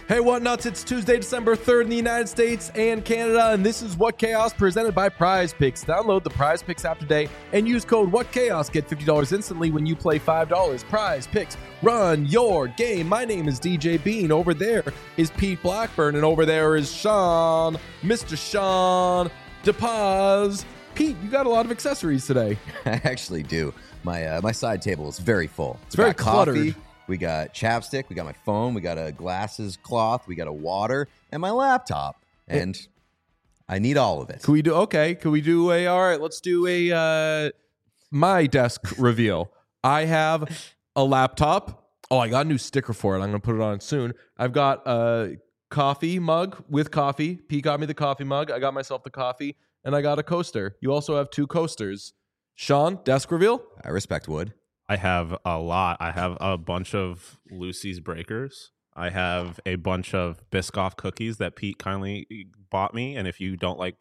Hey, what nuts? It's Tuesday, December 3rd in the United States and Canada, and this is What Chaos presented by Prize Picks. Download the Prize Picks app today and use code WhatChaos. Get $50 instantly when you play $5. Prize Picks, run your game. My name is DJ Bean. Over there is Pete Blackburn, and over there is Sean, Mr. Sean DePaz. Pete, you got a lot of accessories today. I actually do. My side table is very full. It's very cluttered. Coffee, we got chapstick, we got my phone, we got a glasses cloth, we got a water, and my laptop. And I need all of it. All right, let's do a my desk reveal. I have a laptop. Oh, I got a new sticker for it. I'm going to put it on soon. I've got a coffee mug with coffee. Pete got me the coffee mug. I got myself the coffee, and I got a coaster. You also have two coasters. Sean, desk reveal? I respect wood. I have a lot. I have a bunch of Lucy's Breakers. I have a bunch of Biscoff cookies that Pete kindly bought me. And if you don't like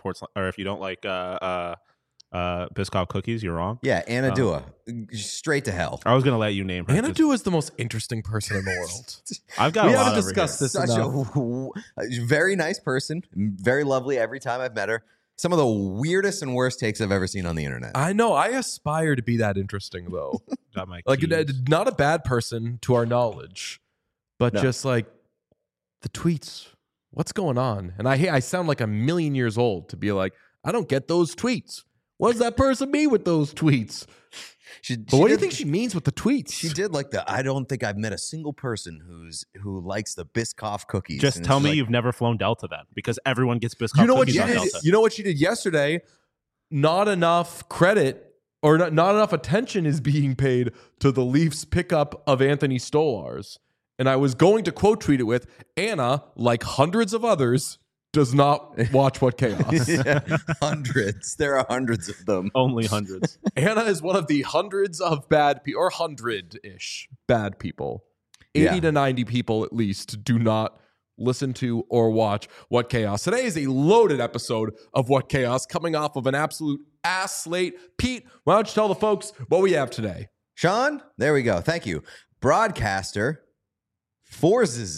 Biscoff cookies, you're wrong. Yeah, Anna Dua. Straight to hell. I was going to let you name her. Anna Dua is the most interesting person in the world. I've got we a lot haven't over discussed here. this Such enough. a very nice person. Very lovely every time I've met her. Some of the weirdest and worst takes I've ever seen on the internet. I know. I aspire to be that interesting, though. Got my Like, keys. not a bad person to our knowledge, but No. just like the tweets. What's going on? And I sound like a million years old to be like, I don't get those tweets. What does that person mean with those tweets? But what do you think she means with the tweets? She did like I don't think I've met a single person who likes the Biscoff cookies. Just And tell it's me like, you've never flown Delta then, because everyone gets Biscoff You know what cookies she on did? Delta. You know what she did yesterday? Not enough credit or not enough attention is being paid to the Leafs pickup of Anthony Stolarz. And I was going to quote tweet it with, Anna, like hundreds of others, does not watch What Chaos. Yeah, hundreds. There are hundreds of them. Only hundreds. Anna is one of the hundreds of bad people, or 100-ish bad people. 80 Yeah. to 90 people at least do not listen to or watch What Chaos. Today is a loaded episode of What Chaos, coming off of an absolute ass slate. Pete, why don't you tell the folks what we have today? Sean, there we go. Thank you. Broadcaster forces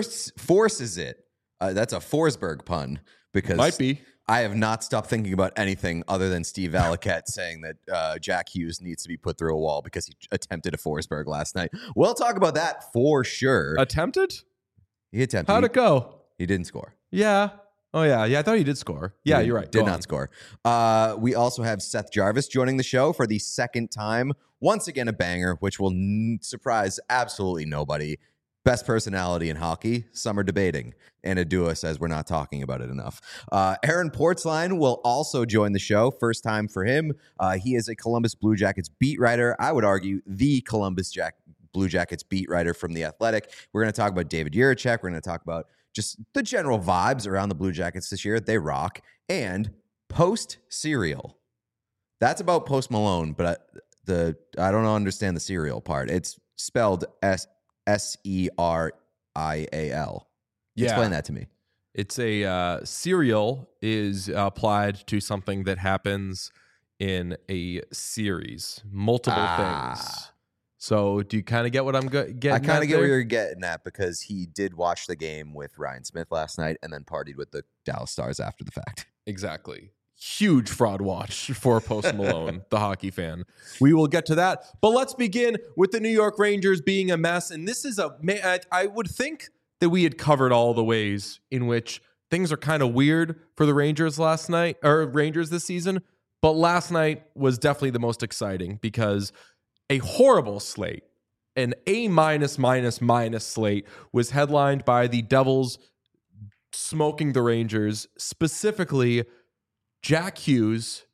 it. That's a Forsberg pun because Might be. I have not stopped thinking about anything other than Steve Valiquette saying that Jack Hughes needs to be put through a wall because he attempted a Forsberg last night. We'll talk about that for sure. Attempted? He attempted. How'd it go? He didn't score. Yeah. Oh, yeah. Yeah, I thought he did score. Yeah, He you're right. Did Go not on. score. We also have Seth Jarvis joining the show for the second time. Once again, a banger, which will surprise absolutely nobody. Best personality in hockey. Some are debating. Anna Dua says we're not talking about it enough. Aaron Portzline will also join the show. First time for him. He is a Columbus Blue Jackets beat writer. I would argue the Columbus Blue Jackets beat writer from The Athletic. We're going to talk about David Jiricek. We're going to talk about just the general vibes around the Blue Jackets this year. They rock. And Post Cereal. That's about Post Malone, but I don't understand the cereal part. It's spelled Serial. Yeah. Explain that to me. It's a serial is applied to something that happens in a series, multiple things. So do you kind of get what I'm getting I kind at of get there? where you're getting at because he did watch the game with Ryan Smith last night and then partied with the Dallas Stars after the fact. Exactly. Huge fraud watch for Post Malone, the hockey fan. We will get to that. But let's begin with the New York Rangers being a mess. And this is I would think that we had covered all the ways in which things are kind of weird for the Rangers last night, or Rangers this season. But last night was definitely the most exciting because a horrible slate, an A-, slate, was headlined by the Devils smoking the Rangers, specifically Jack Hughes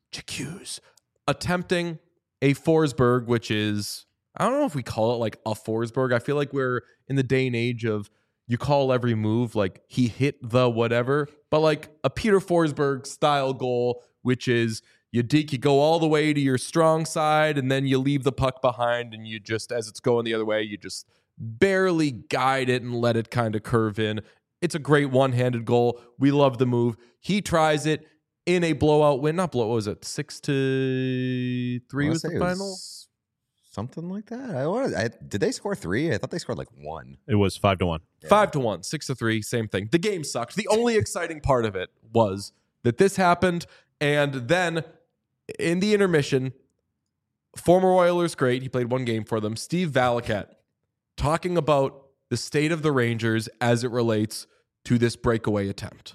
attempting a Forsberg, which is, I don't know if we call it like a Forsberg. I feel like we're in the day and age of you call every move like he hit the whatever, but like a Peter Forsberg style goal, which is you go all the way to your strong side and then you leave the puck behind and you just, as it's going the other way, you just barely guide it and let it kind of curve in. It's a great one-handed goal. We love the move. He tries it in a blowout win. Not blow. What was it? 6-3 was the final? something like that. Did they score 3? I thought they scored like 1. It was 5-1. 5-1, 6-3, same thing. The game sucked. The only exciting part of it was that this happened, and then in the intermission, former Oilers great, he played 1 game for them, Steve Valiquette, talking about the state of the Rangers as it relates to this breakaway attempt.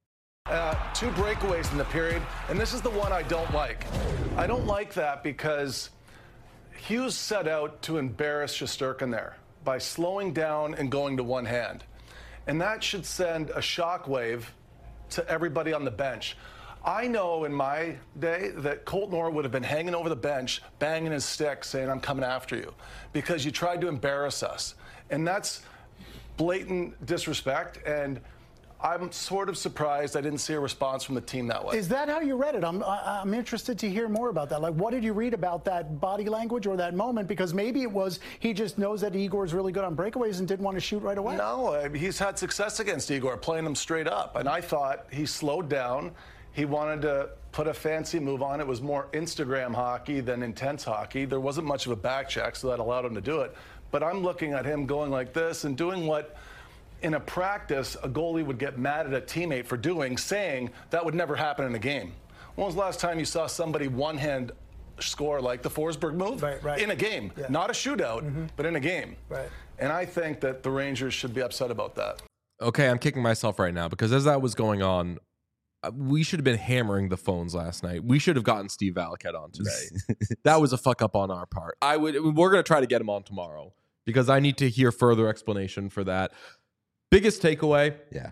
2 breakaways in the period, and this is the one I don't like. I don't like that because Hughes set out to embarrass Shesterkin there by slowing down and going to one hand. And that should send a shockwave to everybody on the bench. I know in my day that Colton Orr would have been hanging over the bench, banging his stick, saying, I'm coming after you, because you tried to embarrass us. And that's blatant disrespect, and I'm sort of surprised I didn't see a response from the team that way. Is that how you read it? I'm interested to hear more about that. Like, what did you read about that body language or that moment? Because maybe it was he just knows that Igor's really good on breakaways and didn't want to shoot right away. No, he's had success against Igor, playing him straight up. And I thought he slowed down. He wanted to put a fancy move on. It was more Instagram hockey than intense hockey. There wasn't much of a back check, so that allowed him to do it. But I'm looking at him going like this and doing what in a practice a goalie would get mad at a teammate for doing, saying that would never happen in a game. When was the last time you saw somebody one-hand score like the Forsberg move? Right. In a game. Yeah. Not a shootout, but in a game. Right. And I think that the Rangers should be upset about that. Okay, I'm kicking myself right now because as that was going on, we should have been hammering the phones last night. We should have gotten Steve Valiquette on today. That was a fuck up on our part. We're going to try to get him on tomorrow because I need to hear further explanation for that. Biggest takeaway. Yeah.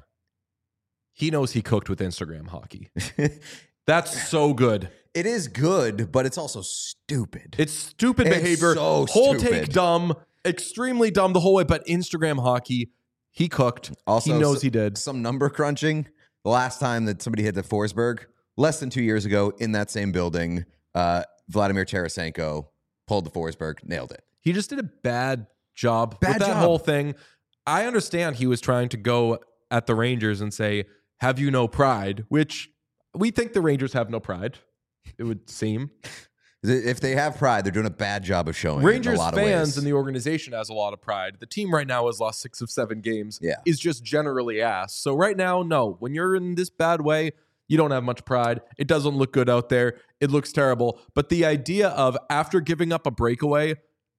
He knows he cooked with Instagram hockey. That's so good. It is good, but it's also stupid. It's stupid It's behavior. so Whole stupid. take dumb, extremely dumb the whole way, but Instagram hockey, he cooked. Also, he knows he did. Some number crunching. The last time that somebody hit the Forsberg, less than 2 years ago in that same building, Vladimir Tarasenko pulled the Forsberg, nailed it. He just did a bad job with that whole thing. I understand he was trying to go at the Rangers and say, have you no pride? Which we think the Rangers have no pride, it would seem. If they have pride, they're doing a bad job of showing it in Rangers a lot of fans ways. and the organization has a lot of pride. The team right now has lost 6 of 7 games. Yeah. Is just generally ass. So right now, no. When you're in this bad way, you don't have much pride. It doesn't look good out there. It looks terrible. But the idea of after giving up a breakaway,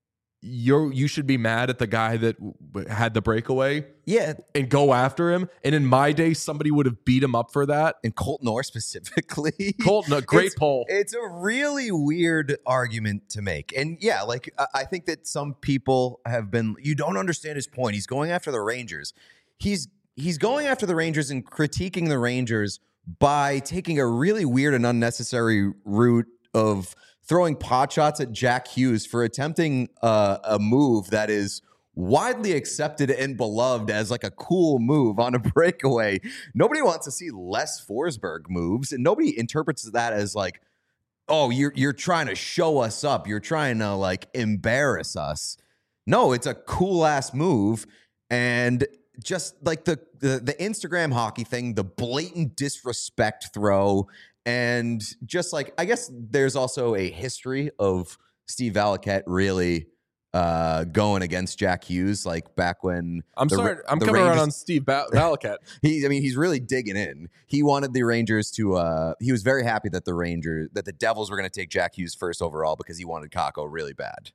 you should be mad at the guy that had the breakaway, Yeah. and go after him. And in my day, somebody would have beat him up for that. And Colton Orr specifically. Colton, a great It's- poll. It's a really weird argument to make. And yeah, like I think that some people have been, you don't understand his point. He's going after the Rangers. He's going after the Rangers and critiquing the Rangers by taking a really weird and unnecessary route of throwing pot shots at Jack Hughes for attempting a move that is widely accepted and beloved as like a cool move on a breakaway. Nobody wants to see less Forsberg moves, and nobody interprets that as like, oh, you're trying to show us up. You're trying to like embarrass us. No, it's a cool ass move. And just like the Instagram hockey thing, the blatant disrespect throw, and just like, I guess there's also a history of Steve Valiquette really going against Jack Hughes, like back when I'm the sorry. I'm the coming around Rangers- on Steve Valiquette. He's really digging in. He wanted the Rangers to. He was very happy that the Devils were going to take Jack Hughes first overall because he wanted Kakko really bad.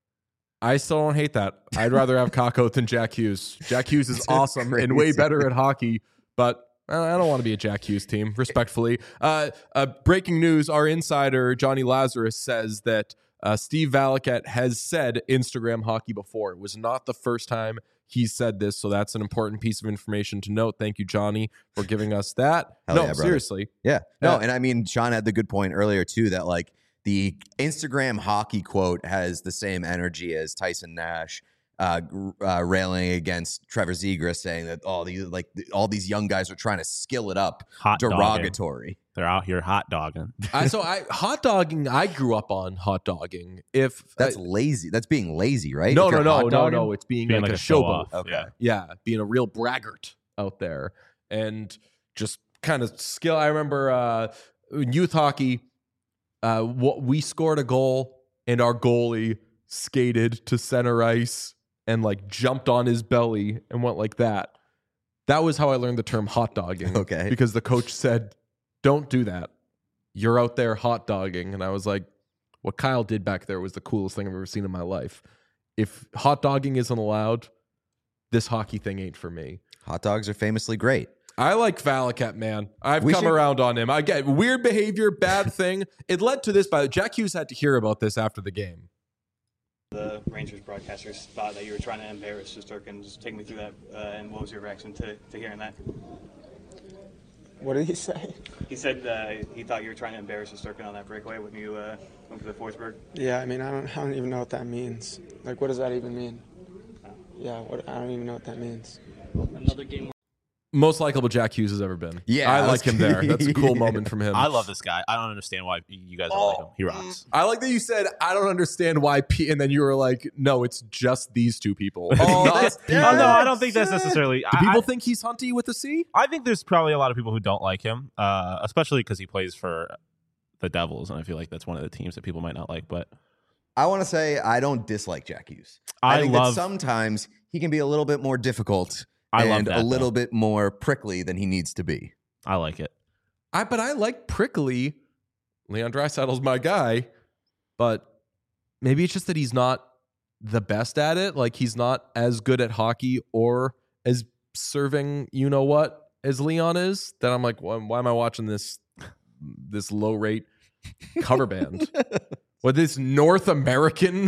I still don't hate that. I'd rather have Kakko than Jack Hughes. Jack Hughes is awesome and way Crazy. better at hockey, but I don't want to be a Jack Hughes team, respectfully. Breaking news, our insider, Johnny Lazarus, says that Steve Valiquette has said Instagram hockey before. It was not the first time he said this, so that's an important piece of information to note. Thank you, Johnny, for giving us that. Hell No, yeah, brother. seriously. Yeah. No, Yeah. and I mean, Sean had the good point earlier too that like the Instagram hockey quote has the same energy as Tyson Nash railing against Trevor Zegras, saying that all these young guys are trying to skill it up. Hot dogging. Derogatory. They're out here hot dogging. Hot dogging, I grew up on hot dogging. If That's lazy. That's being lazy, right? no, If you're no, hot dogging? no. It's being, Being like like a a show showboat. off. Okay. Yeah, being a real braggart out there and just kind of skill. I remember in youth hockey, we scored a goal and our goalie skated to center ice and like jumped on his belly and went like that. That was how I learned the term hot dogging. Okay. Because the coach said, don't do that. You're out there hot dogging. And I was like, what Kyle did back there was the coolest thing I've ever seen in my life. If hot dogging isn't allowed, this hockey thing ain't for me. Hot dogs are famously great. I like Valakat, man. I've We come should- around on him. I get weird behavior, bad thing. It led to this, but Jack Hughes had to hear about this after the game. The Rangers broadcasters thought that you were trying to embarrass Shesterkin. Just take me through that, and what was your reaction to hearing that? What did he say? He said he thought you were trying to embarrass Shesterkin on that breakaway when you went to the Forsberg. Yeah, I mean, I don't even know what that means. Like, what does that even mean? Yeah, I don't even know what that means. Another game. Most likable Jack Hughes has ever been. Yeah, I that's like him there. That's a cool yeah. moment from him. I love this guy. I don't understand why you guys don't like him. He rocks. I like that you said, I don't understand why and then you were like, no, it's just these two people. It's Oh, not that's- people. Oh, no, I don't think that's necessarily. Do people think he's Hunty with a C? I think there's probably a lot of people who don't like him, especially because he plays for the Devils, and I feel like that's one of the teams that people might not like. But I want to say I don't dislike Jack Hughes. I think love- that sometimes he can be a little bit more difficult I love and that, a little though. bit more prickly than he needs to be. I like it. But I like prickly. Leon Draisaitl's my guy, but maybe it's just that he's not the best at it. Like he's not as good at hockey or as serving, you know what, as Leon is. That I'm like, why am I watching this low rate cover band? With this North American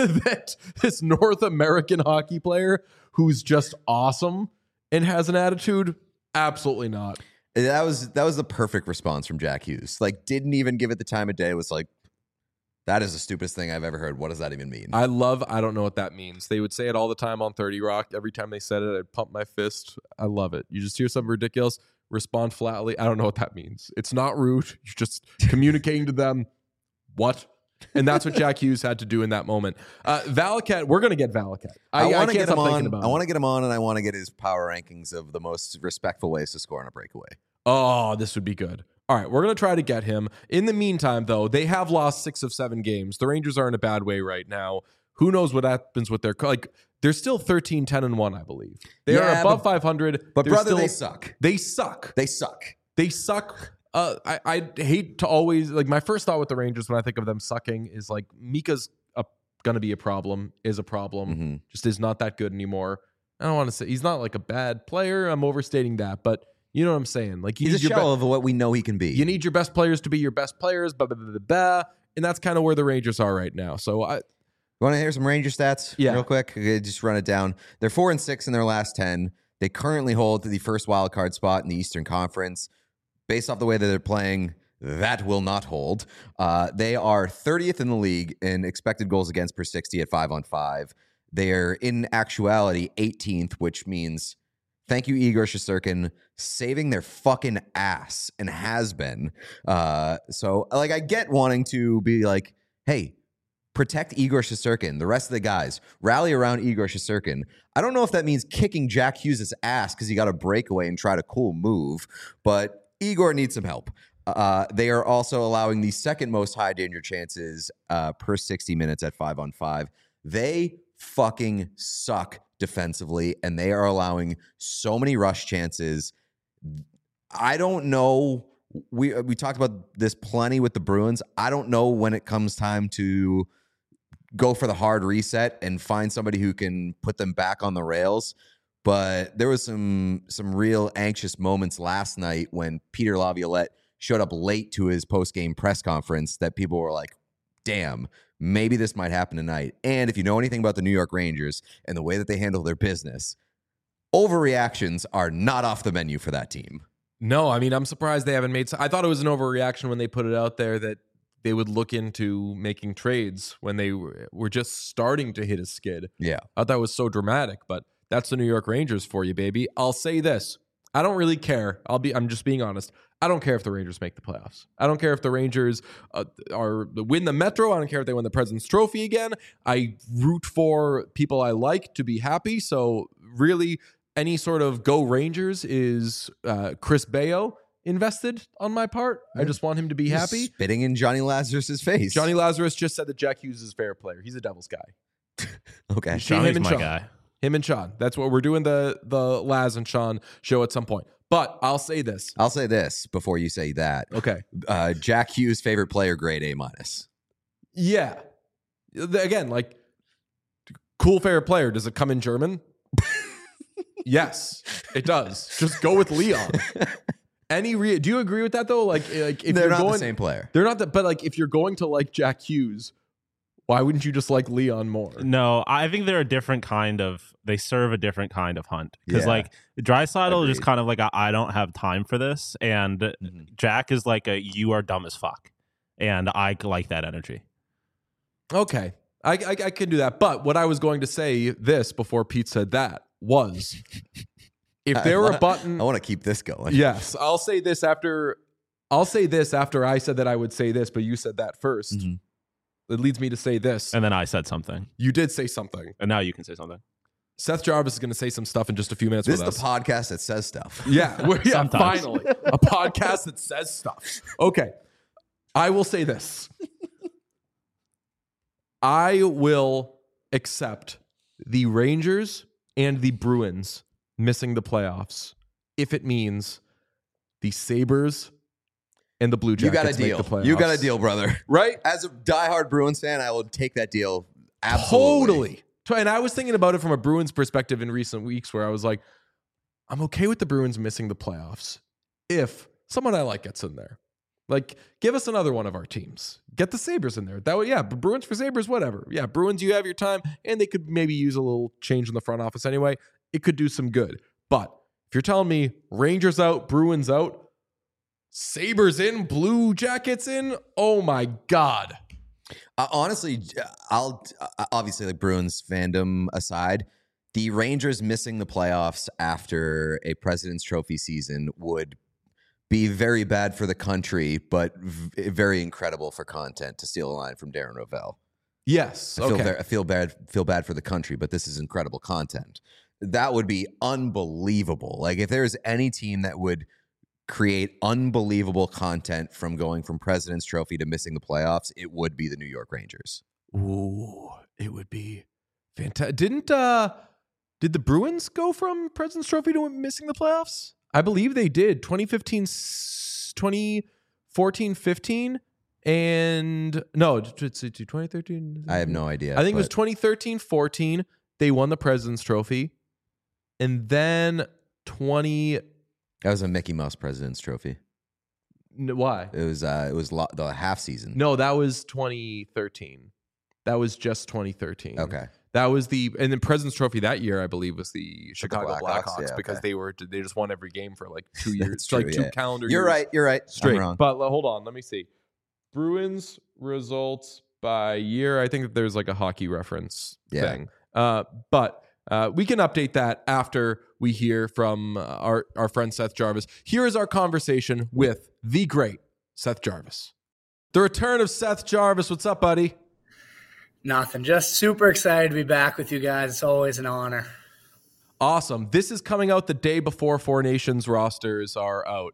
this North American hockey player who's just awesome and has an attitude? Absolutely not. That was the perfect response from Jack Hughes. Like, didn't even give it the time of day. Was like, that is the stupidest thing I've ever heard. What does that even mean? I don't know what that means. They would say it all the time on 30 Rock. Every time they said it, I'd pump my fist. I love it. You just hear something ridiculous, respond flatly. I don't know what that means. It's not rude. You're just communicating to them what? And that's what Jack Hughes had to do in that moment. Valakat, we're going to get Valakat. I want to can't get him stop thinking on. about I it. want to get him on, and I want to get his power rankings of the most respectful ways to score on a breakaway. Oh, this would be good. All right, we're going to try to get him. In the meantime, though, they have lost 6 of 7 games. The Rangers are in a bad way right now. Who knows what happens with their they're still 13-10-1, I believe. They are Yeah, above 500. But They're brother, still- they suck. They suck. They suck. They suck. I hate to always my first thought with the Rangers when I think of them sucking is like Mika's going to be a problem, Mm-hmm. just is not that good anymore. I don't want to say he's not like a bad player. I'm overstating that, but you know what I'm saying. Like He's a shell of what we know he can be. you need your best players to be your best players, and that's kind of where the Rangers are right now. So You want to hear some Ranger stats real quick? Okay, just run it down. They're 4-6 in their last 10. They currently hold the first wild card spot in the Eastern Conference. Based off the way that they're playing, that will not hold. They are 30th in the league in expected goals against per 60 at 5-on-5. They're in actuality 18th, which means thank you, Igor Shesterkin, saving their fucking ass and has been. So like, I get wanting to be like, hey, protect Igor Shesterkin. The rest of the guys rally around Igor Shesterkin. I don't know if that means kicking Jack Hughes' ass because he got a breakaway and tried a cool move, but Igor needs some help. They are also allowing the second most high danger chances per 60 minutes at 5-on-5. They fucking suck defensively, and they are allowing so many rush chances. I don't know. We talked about this plenty with the Bruins. I don't know when it comes time to go for the hard reset and find somebody who can put them back on the rails. But there was some real anxious moments last night when Peter Laviolette showed up late to his post-game press conference that people were like, damn, maybe this might happen tonight. And if you know anything about the New York Rangers and the way that they handle their business, overreactions are not off the menu for that team. No, I mean, I'm surprised they haven't made. I thought it was an overreaction when they put it out there that they would look into making trades when they were just starting to hit a skid. Yeah. I thought that was so dramatic, but that's the New York Rangers for you, baby. I'll say this. I don't really care. I'm just being honest. I don't care if the Rangers make the playoffs. I don't care if the Rangers win the Metro. I don't care if they win the President's Trophy again. I root for people I like to be happy. So really, any sort of go Rangers is Chris Bayo invested on my part. I just want him to be happy. Spitting in Johnny Lazarus's face. Johnny Lazarus just said that Jack Hughes is a fair player. He's a Devils guy. Okay. Johnny's and my Sean. guy. Him and Sean. That's what we're doing, the Laz and Sean show at some point. But I'll say this. I'll say this before you say that. Okay. Jack Hughes' favorite player, grade A-. Yeah. Again, like, cool favorite player. Does it come in German? Yes, it does. Just go with Leon. Do you agree with that though? Like if They're you're not going, the same player. They're not that. But like, if you're going to like Jack Hughes, why wouldn't you just like Leon more? No, I think they're a different kind of. They serve a different kind of hunt because Yeah. like Draisaitl is just Agreed. kind of like I don't have time for this, and Jack is like a you are dumb as fuck, and I like that energy. Okay, I can do that. But what I was going to say this before Pete said that was, if there were a button, I want to keep this going. yes, I'll say this after I said that I would say this, but you said that first. Mhm. It leads me to say this. And then I said something, You did say something. and now you can say something. Seth Jarvis is going to say some stuff in just a few minutes This with is us. the podcast that says stuff. Yeah, Sometimes. finally. A podcast that says stuff. Okay. I will say this. I will accept the Rangers and the Bruins missing the playoffs if it means the Sabres and the Blue You Jackets got a make deal. the playoffs. You got a deal, brother. Right? As a diehard Bruins fan, I will take that deal. Absolutely. Totally. And I was thinking about it from a Bruins perspective in recent weeks where I was like, I'm okay with the Bruins missing the playoffs if someone I like gets in there. Like, give us another one of our teams. Get the Sabres in there. That way, yeah, Bruins for Sabres, whatever. Yeah, Bruins, you have your time, and they could maybe use a little change in the front office anyway. It could do some good. But if you're telling me Rangers out, Bruins out, Sabres in, Blue Jackets in, oh my God. Honestly, I'll obviously, like, Bruins fandom aside, the Rangers missing the playoffs after a President's Trophy season would be very bad for the country, but very incredible for content, to steal a line from Darren Rovell. Yes. I feel bad for the country, but this is incredible content. That would be unbelievable. Like, if there's any team that would create unbelievable content from going from President's Trophy to missing the playoffs, it would be the New York Rangers. Ooh, it would be fantastic. Did the Bruins go from President's Trophy to missing the playoffs? I believe they did. 2014, 15, and no, 2013. I have no idea. I think it was 2013, 14. They won the President's Trophy, and then That was a Mickey Mouse President's Trophy. Why? It was the half season. No, that was 2013. That was just 2013. Okay. That was and then President's Trophy that year, I believe, was the Chicago Blackhawks, Blackhawks yeah, because okay. they just won every game for like 2 years, That's true, like two yeah. calendar You're years. right. You're right. Straight. I'm wrong. But hold on, let me see. Bruins results by year. I think that there's like a hockey reference thing. But we can update that after we hear from our friend Seth Jarvis. Here is our conversation with the great Seth Jarvis. The return of Seth Jarvis. What's up, buddy? Nothing. Just super excited to be back with you guys. It's always an honor. Awesome. This is coming out the day before Four Nations rosters are out.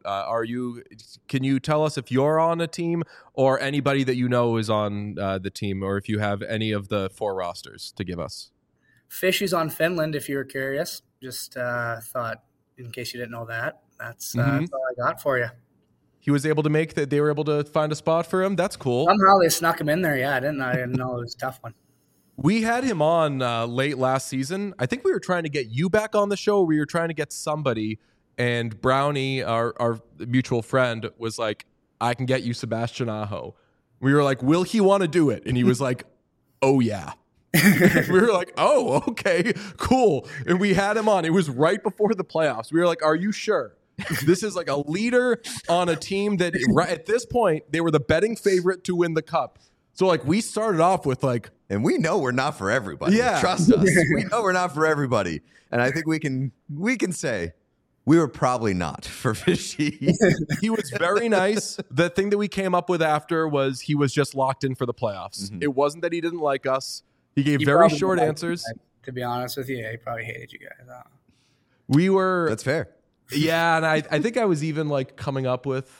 Can you tell us if you're on a team or anybody that you know is on the team, or if you have any of the four rosters to give us? Fishy's on Finland, if you were curious. Just thought, in case you didn't know that, that's all I got for you. He was able to make that. They were able to find a spot for him. That's cool. Somehow they snuck him in there. Yeah, I didn't know it was a tough one. We had him on late last season. I think we were trying to get you back on the show. We were trying to get somebody, and Brownie, our mutual friend, was like, I can get you Sebastian Aho. We were like, will he want to do it? And he was like, oh, yeah. We were like, oh, okay, cool. And we had him on. It was right before the playoffs. We were like, are you sure? This is like a leader on a team that at this point, they were the betting favorite to win the cup. So like we started off with like, and we know we're not for everybody. Yeah. Trust us. We know we're not for everybody. And I think we can say we were probably not for Fishy. He was very nice. The thing that we came up with after was he was just locked in for the playoffs. It wasn't that he didn't like us. He gave very short answers. To be honest with you, he probably hated you guys. We were. That's fair. Yeah, and I think I was even like coming up with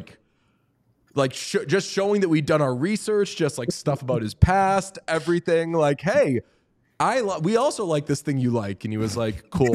just showing that we'd done our research, just like stuff about his past, everything. Like, hey, we also like this thing you like, and he was like, cool.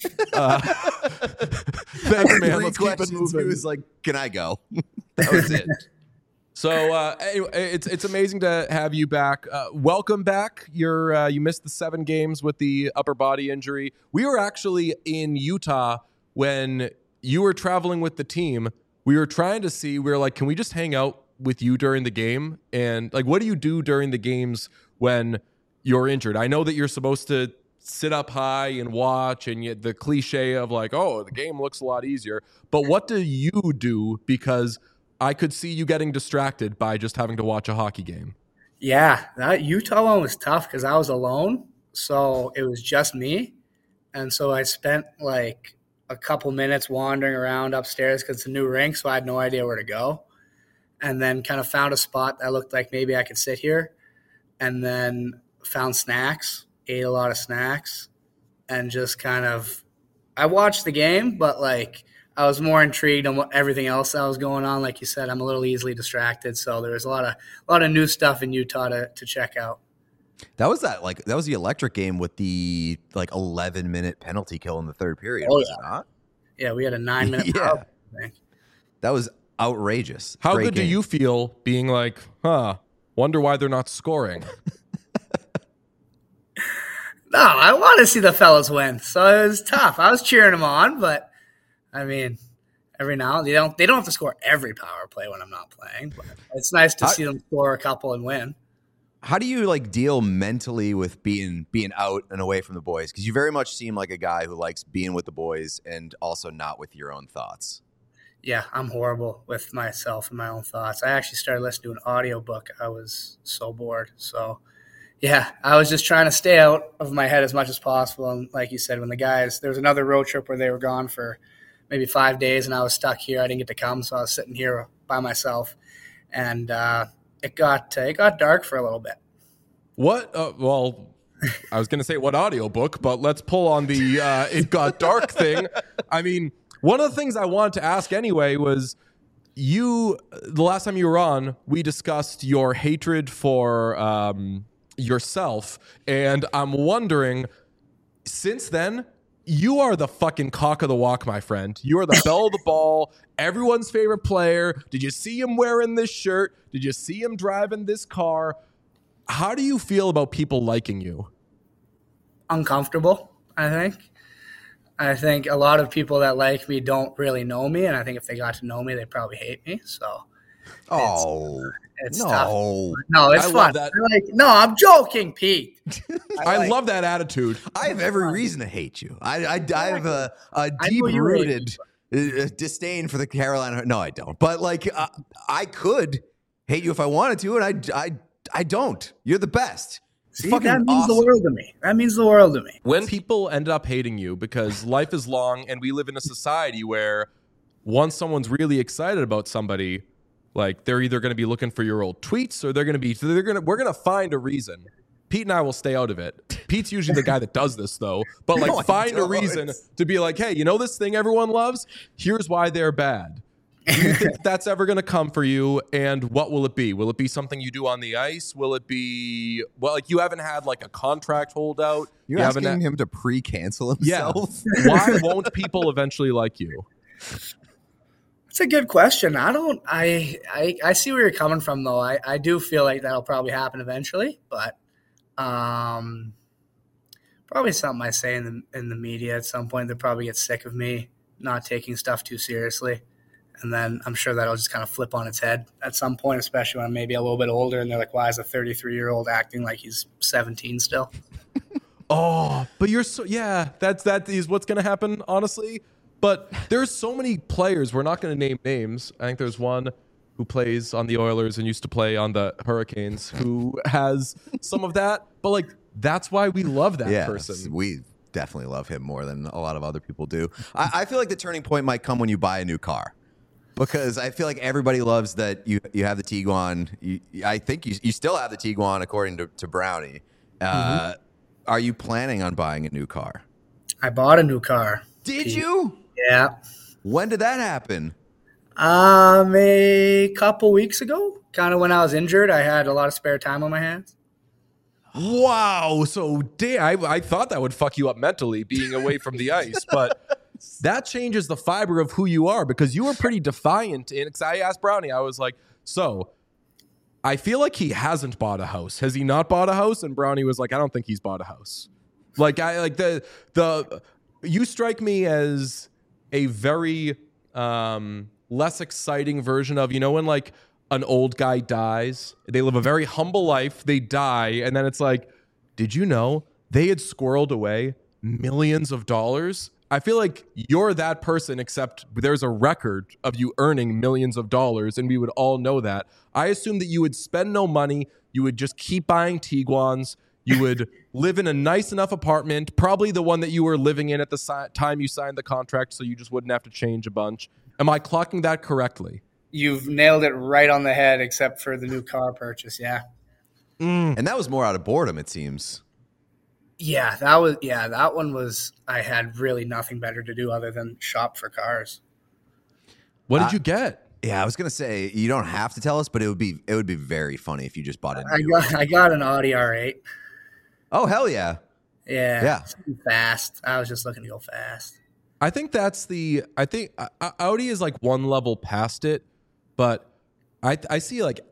Thanks, man. Let's keep it moving. He was like, can I go? That was it. So anyway, it's amazing to have you back. Welcome back. You missed the 7 games with the upper body injury. We were actually in Utah when you were traveling with the team. We were trying to see. We were like, can we just hang out with you during the game? And like, what do you do during the games when you're injured? I know that you're supposed to sit up high and watch, and yet the cliche of like, oh, the game looks a lot easier. But what do you do? Because I could see you getting distracted by just having to watch a hockey game. Yeah, that Utah one was tough because I was alone. So it was just me. And so I spent like a couple minutes wandering around upstairs because it's a new rink, so I had no idea where to go. And then kind of found a spot that looked like maybe I could sit here. And then found snacks, ate a lot of snacks, and just kind of – I watched the game, but like – I was more intrigued on everything else that was going on. Like you said, I'm a little easily distracted, so there was a lot of new stuff in Utah to check out. That was the electric game with the 11-minute penalty kill in the third period. Oh, was it not? Yeah, we had a 9-minute power play. That was outrageous. How Great good game. do you feel being like, wonder why they're not scoring? No, I want to see the fellas win, so it was tough. I was cheering them on, but I mean, every now they don't have to score every power play when I'm not playing, but it's nice to see them score a couple and win. How do you deal mentally with being out and away from the boys? Because you very much seem like a guy who likes being with the boys and also not with your own thoughts. Yeah, I'm horrible with myself and my own thoughts. I actually started listening to an audiobook. I was so bored. So, yeah, I was just trying to stay out of my head as much as possible. And like you said, when the guys – there was another road trip where they were gone for – maybe 5 days, and I was stuck here. I didn't get to come, so I was sitting here by myself, and it got dark for a little bit. What? Well, I was going to say what audiobook, but let's pull on the it got dark thing. I mean, one of the things I wanted to ask anyway was the last time you were on, we discussed your hatred for yourself, and I'm wondering, since then, you are the fucking cock of the walk, my friend. You are the belle of the ball, everyone's favorite player. Did you see him wearing this shirt? Did you see him driving this car? How do you feel about people liking you? Uncomfortable, I think. I think a lot of people that like me don't really know me, and I think if they got to know me, they'd probably hate me. So, it's no. tough. No, it's fun. No, I'm joking, Pete. I love that attitude. I have every reason to hate you. I have a deep-rooted disdain for the Carolina. No, I don't. But I could hate you if I wanted to, and I don't. You're the best. See, that means the world to me. That means the world to me. When people end up hating you, because life is long and we live in a society where once someone's really excited about somebody, like they're either going to be looking for your old tweets or we're going to find a reason. Pete and I will stay out of it. Pete's usually the guy that does this though, but find a reason to be like, hey, you know this thing everyone loves? Here's why they're bad. Do you think that's ever going to come for you? And what will it be? Will it be something you do on the ice? Will it be, you haven't had a contract holdout. You're asking him to pre-cancel himself? Yeah. Why won't people eventually like you? That's a good question. I see where you're coming from though. I do feel like that'll probably happen eventually, but probably something I say in the media at some point. They'll probably get sick of me not taking stuff too seriously. And then I'm sure that'll just kind of flip on its head at some point, especially when I'm maybe a little bit older and they're like, why is a 33-year-old acting like he's 17 still? Oh, but that is what's going to happen, honestly. But there's so many players. We're not going to name names. I think there's one who plays on the Oilers and used to play on the Hurricanes who has some of that. But that's why we love that person. We definitely love him more than a lot of other people do. I feel like the turning point might come when you buy a new car. Because I feel like everybody loves that you have the Tiguan. I think you still have the Tiguan according to Brownie. Are you planning on buying a new car? I bought a new car. Did you? Yeah. When did that happen? A couple weeks ago, kind of when I was injured, I had a lot of spare time on my hands. Wow. So, I thought that would fuck you up mentally being away from the ice, but that changes the fiber of who you are because you were pretty defiant. Because I asked Brownie, I was like, so I feel like he hasn't bought a house. Has he not bought a house? And Brownie was like, I don't think he's bought a house. Like, you strike me as a very less exciting version of, when like an old guy dies, they live a very humble life, they die, and then it's like, did you know they had squirreled away millions of dollars? I feel like you're that person, except there's a record of you earning millions of dollars, and we would all know that. I assume that you would spend no money, you would just keep buying Tiguans, you would live in a nice enough apartment, probably the one that you were living in at the time you signed the contract, so you just wouldn't have to change a bunch. Am I clocking that correctly? You've nailed it right on the head, except for the new car purchase. Yeah. And that was more out of boredom, it seems. Yeah, that one was, I had really nothing better to do other than shop for cars. What did you get? Yeah, I was gonna say you don't have to tell us, but it would be very funny if you just bought it. I got an Audi R8. Oh hell yeah! Yeah. Fast. I was just looking to go fast. I think Audi is like one level past it, but I see like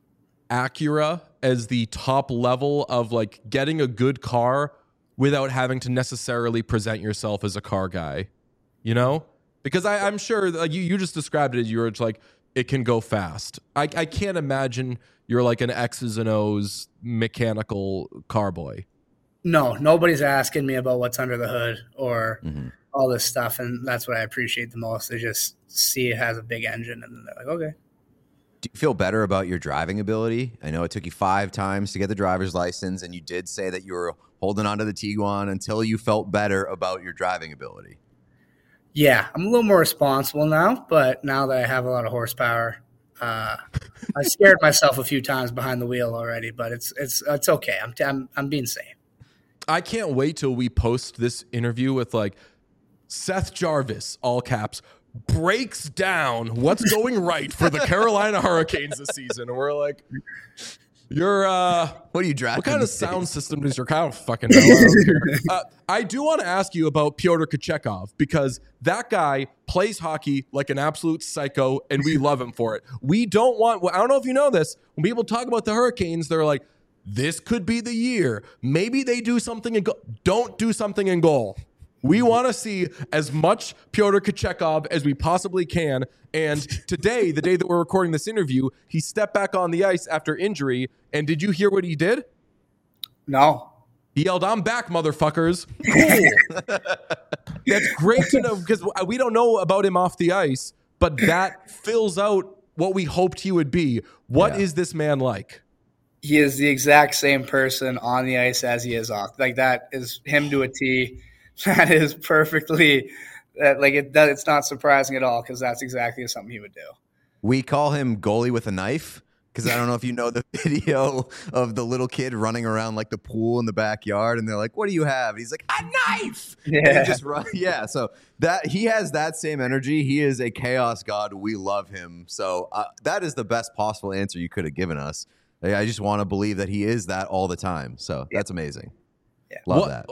Acura as the top level of like getting a good car without having to necessarily present yourself as a car guy, Because I'm sure like you just described it as you're like, it can go fast. I can't imagine you're like an X's and O's mechanical car boy. No, nobody's asking me about what's under the hood or all this stuff, and that's what I appreciate the most. They just see it has a big engine, and they're like, okay. Do you feel better about your driving ability? I know it took you 5 times to get the driver's license, and you did say that you were holding on to the Tiguan until you felt better about your driving ability. Yeah, I'm a little more responsible now, but now that I have a lot of horsepower, I scared myself a few times behind the wheel already, but it's okay. I'm being safe. I can't wait till we post this interview with like Seth Jarvis, all caps, breaks down what's going right for the Carolina Hurricanes this season. And we're like, you're what are you drafting? What kind of sound system does your cow fucking know? I don't care. I do want to ask you about Pyotr Kochetkov because that guy plays hockey like an absolute psycho, and we love him for it. We don't want. I don't know if you know this. When people talk about the Hurricanes, they're like, this could be the year. Maybe they do something and don't do something in goal. We want to see as much Pyotr Kochetkov as we possibly can. And today, the day that we're recording this interview, he stepped back on the ice after injury. And did you hear what he did? No. He yelled, "I'm back, motherfuckers." Cool. That's great to know because we don't know about him off the ice, but that fills out what we hoped he would be. What is this man like? He is the exact same person on the ice as he is off. Like that is him to a T. That is perfectly it's not surprising at all because that's exactly something he would do. We call him goalie with a knife because I don't know if you know the video of the little kid running around like the pool in the backyard, and they're like, "What do you have?" And he's like, "A knife." Yeah, just run. Yeah. So that he has that same energy. He is a chaos god. We love him. So that is the best possible answer you could have given us. I just want to believe that he is that all the time. So that's amazing. Yeah. Love that.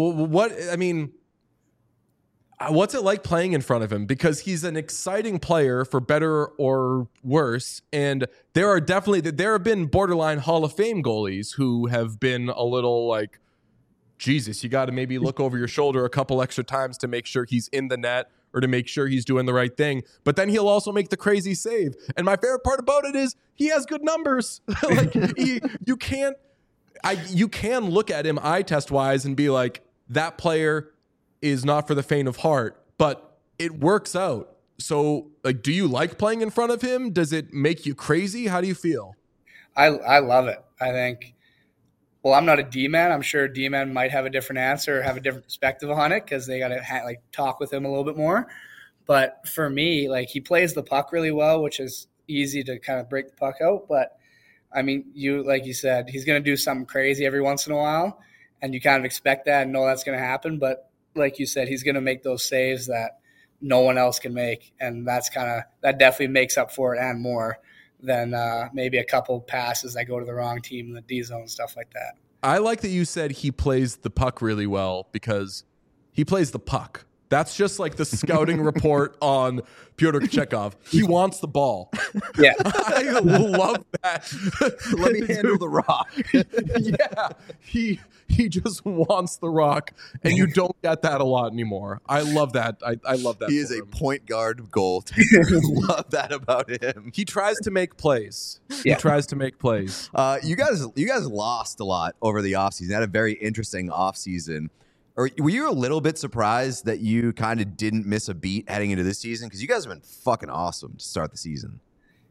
What's it like playing in front of him? Because he's an exciting player for better or worse. And there have been borderline Hall of Fame goalies who have been a little like, Jesus, you got to maybe look over your shoulder a couple extra times to make sure he's in the net or to make sure he's doing the right thing. But then he'll also make the crazy save. And my favorite part about it is he has good numbers. You can look at him eye test wise and be like, that player is not for the faint of heart, but it works out. So like, do you like playing in front of him? Does it make you crazy? How do you feel? I love it. I think, well, I'm not a D-man. I'm sure D-man might have a different answer or have a different perspective on it because they got to talk with him a little bit more. But for me, like he plays the puck really well, which is easy to kind of break the puck out. But I mean, like you said, he's going to do something crazy every once in a while, and you kind of expect that and know that's going to happen. But like you said, he's going to make those saves that no one else can make. And that definitely makes up for it and more than maybe a couple passes that go to the wrong team in the D zone, stuff like that. I like that you said he plays the puck really well because he plays the puck. That's just like the scouting report on Pyotr Kochetkov. He wants the ball. Yeah. I love that. Let me handle the rock. Yeah. He just wants the rock, and you don't get that a lot anymore. I love that. I love that. He is a point guard goaltender. Love that about him. He tries to make plays. Yeah. He tries to make plays. You guys lost a lot over the offseason. Had a very interesting offseason. Or were you a little bit surprised that you kind of didn't miss a beat heading into this season? Because you guys have been fucking awesome to start the season.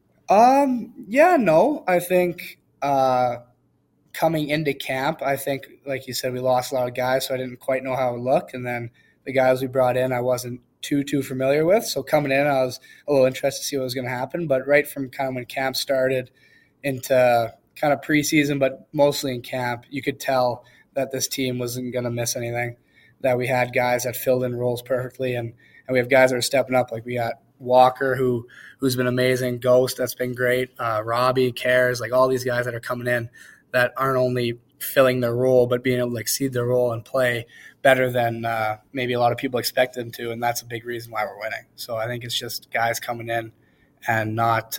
Yeah, no. I think coming into camp, I think, like you said, we lost a lot of guys, so I didn't quite know how it would look. And then the guys we brought in, I wasn't too familiar with. So coming in, I was a little interested to see what was going to happen. But right from kind of when camp started into kind of preseason, but mostly in camp, you could tell that this team wasn't going to miss anything, that we had guys that filled in roles perfectly, and we have guys that are stepping up. Like we got Walker, who's been amazing, Ghost, that's been great, Robbie, Cares, like all these guys that are coming in that aren't only filling their role, but being able to exceed their role and play better than maybe a lot of people expect them to, and that's a big reason why we're winning. So I think it's just guys coming in and not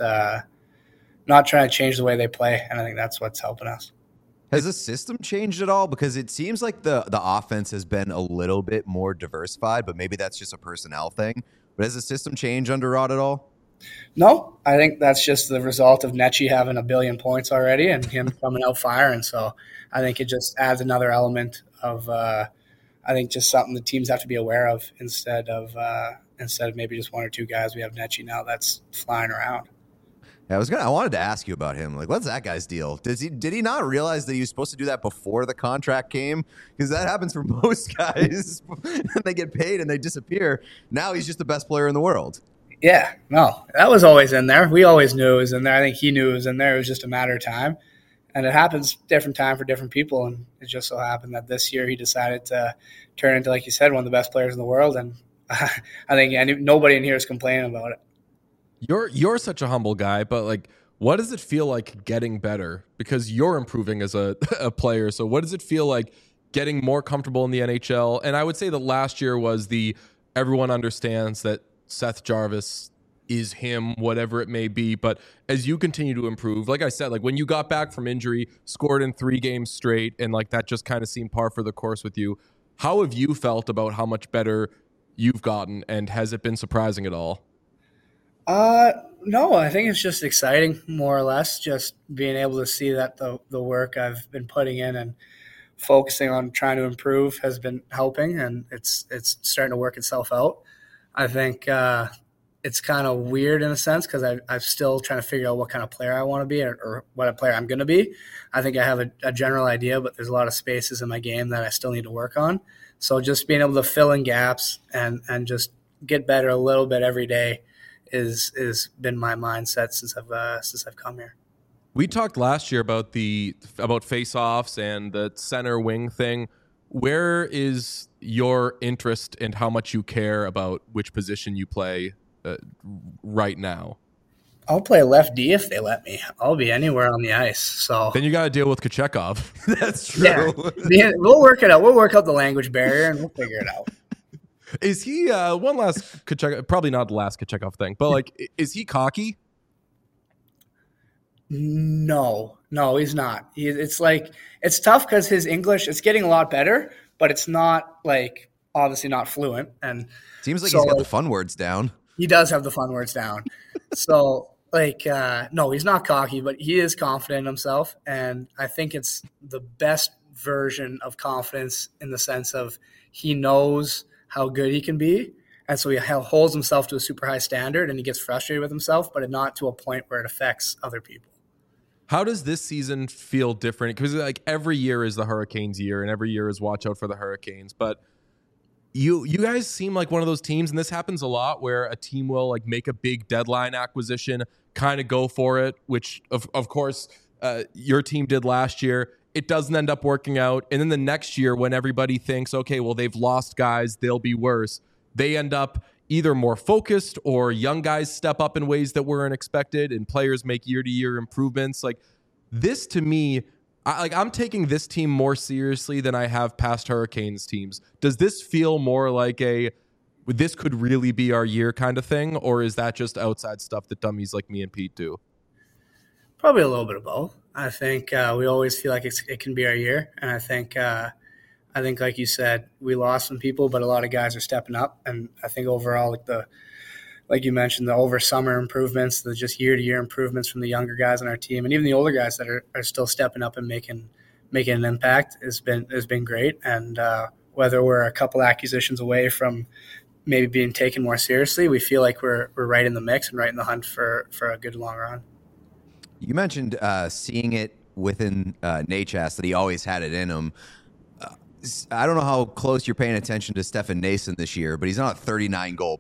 trying to change the way they play, and I think that's what's helping us. Has the system changed at all? Because it seems like the offense has been a little bit more diversified, but maybe that's just a personnel thing. But has the system changed under Rod at all? No, I think that's just the result of Necci having 1 billion points already and him coming out firing. So I think it just adds another element of, I think, just something the teams have to be aware of instead of maybe just one or two guys. We have Necci now that's flying around. Yeah, I wanted to ask you about him. Like, what's that guy's deal? Did he not realize that he was supposed to do that before the contract came? Because that happens for most guys. And they get paid and they disappear. Now he's just the best player in the world. Yeah, no, that was always in there. We always knew it was in there. I think he knew it was in there. It was just a matter of time. And it happens different time for different people. And it just so happened that this year he decided to turn into, like you said, one of the best players in the world. And I think nobody in here is complaining about it. You're such a humble guy, but like, what does it feel like getting better? Because you're improving as a player. So what does it feel like getting more comfortable in the NHL? And I would say that last year was everyone understands that Seth Jarvis is him, whatever it may be. But as you continue to improve, like I said, like when you got back from injury, scored in 3 games straight, and like that just kind of seemed par for the course with you. How have you felt about how much better you've gotten, and has it been surprising at all? No, I think it's just exciting, more or less, just being able to see that the work I've been putting in and focusing on trying to improve has been helping, and it's starting to work itself out. I think it's kind of weird in a sense because I'm still trying to figure out what kind of player I want to be or what a player I'm going to be. I think I have a general idea, but there's a lot of spaces in my game that I still need to work on. So just being able to fill in gaps and just get better a little bit every day is been my mindset since I've come here. We talked last year about face-offs and the center wing thing. Where is your interest and how much you care about which position you play right now? I'll play left D if they let me. I'll be anywhere on the ice. So then you got to deal with Kochetkov. That's true. Yeah, we'll work it out. We'll work out the language barrier and we'll figure it out. Is he one last Kochetkov? Probably not the last Kochetkov thing, but like, is he cocky? No, he's not. It's tough because his English, it's getting a lot better, but it's not like obviously not fluent. And seems like he's got the fun words down. He does have the fun words down. So no, he's not cocky, but he is confident in himself. And I think it's the best version of confidence in the sense of he knows how good he can be. And so he holds himself to a super high standard and he gets frustrated with himself, but not to a point where it affects other people. How does this season feel different? Because like every year is the Hurricanes year and every year is watch out for the Hurricanes. But you guys seem like one of those teams, and this happens a lot, where a team will like make a big deadline acquisition, kind of go for it, which of course your team did last year. It doesn't end up working out. And then the next year when everybody thinks, okay, well, they've lost guys, they'll be worse, they end up either more focused or young guys step up in ways that weren't expected and players make year-to-year improvements. Like this to me, I'm taking this team more seriously than I have past Hurricanes teams. Does this feel more like this could really be our year kind of thing, or is that just outside stuff that dummies like me and Pete do? Probably a little bit of both. I think we always feel like it can be our year, and I think like you said, we lost some people, but a lot of guys are stepping up, and I think overall, like you mentioned, the over summer improvements, the just year-to-year improvements from the younger guys on our team, and even the older guys that are still stepping up and making an impact has been great. And whether we're a couple acquisitions away from maybe being taken more seriously, we feel like we're right in the mix and right in the hunt for a good long run. You mentioned seeing it within Necas that he always had it in him. I don't know how close you're paying attention to Stefan Noesen this year, but he's on a 39 goal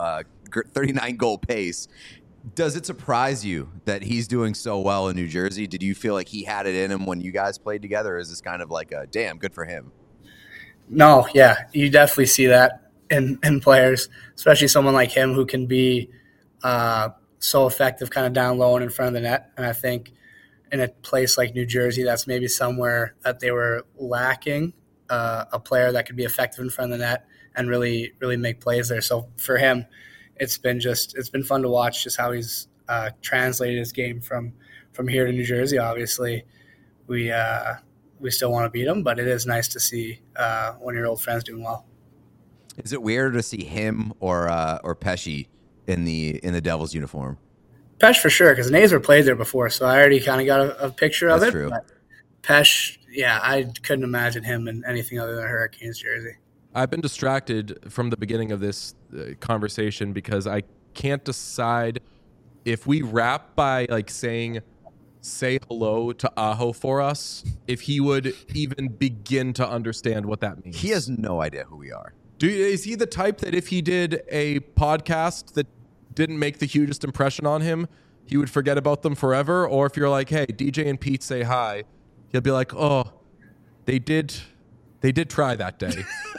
pace. Does it surprise you that he's doing so well in New Jersey? Did you feel like he had it in him when you guys played together? Or is this kind of like a damn good for him? No, yeah, you definitely see that in players, especially someone like him who can be so effective kind of down low and in front of the net. And I think in a place like New Jersey, that's maybe somewhere that they were lacking a player that could be effective in front of the net and really, really make plays there. So for him, it's been fun to watch just how he's translated his game from here to New Jersey. Obviously, we still want to beat him, but it is nice to see one of your old friends doing well. Is it weird to see him or Pesce in the Devils uniform? Pesce for sure, because Nazer played there before, so I already kind of got a picture of That's it. True. But Pesce, yeah, I couldn't imagine him in anything other than a Hurricanes jersey. I've been distracted from the beginning of this conversation because I can't decide if we wrap by like saying say hello to Aho for us, if he would even begin to understand what that means. He has no idea who we are. Is he the type that if he did a podcast that didn't make the hugest impression on him, he would forget about them forever? Or if you're like, hey, DJ and Pete say hi, he'll be like, oh, they did try that day.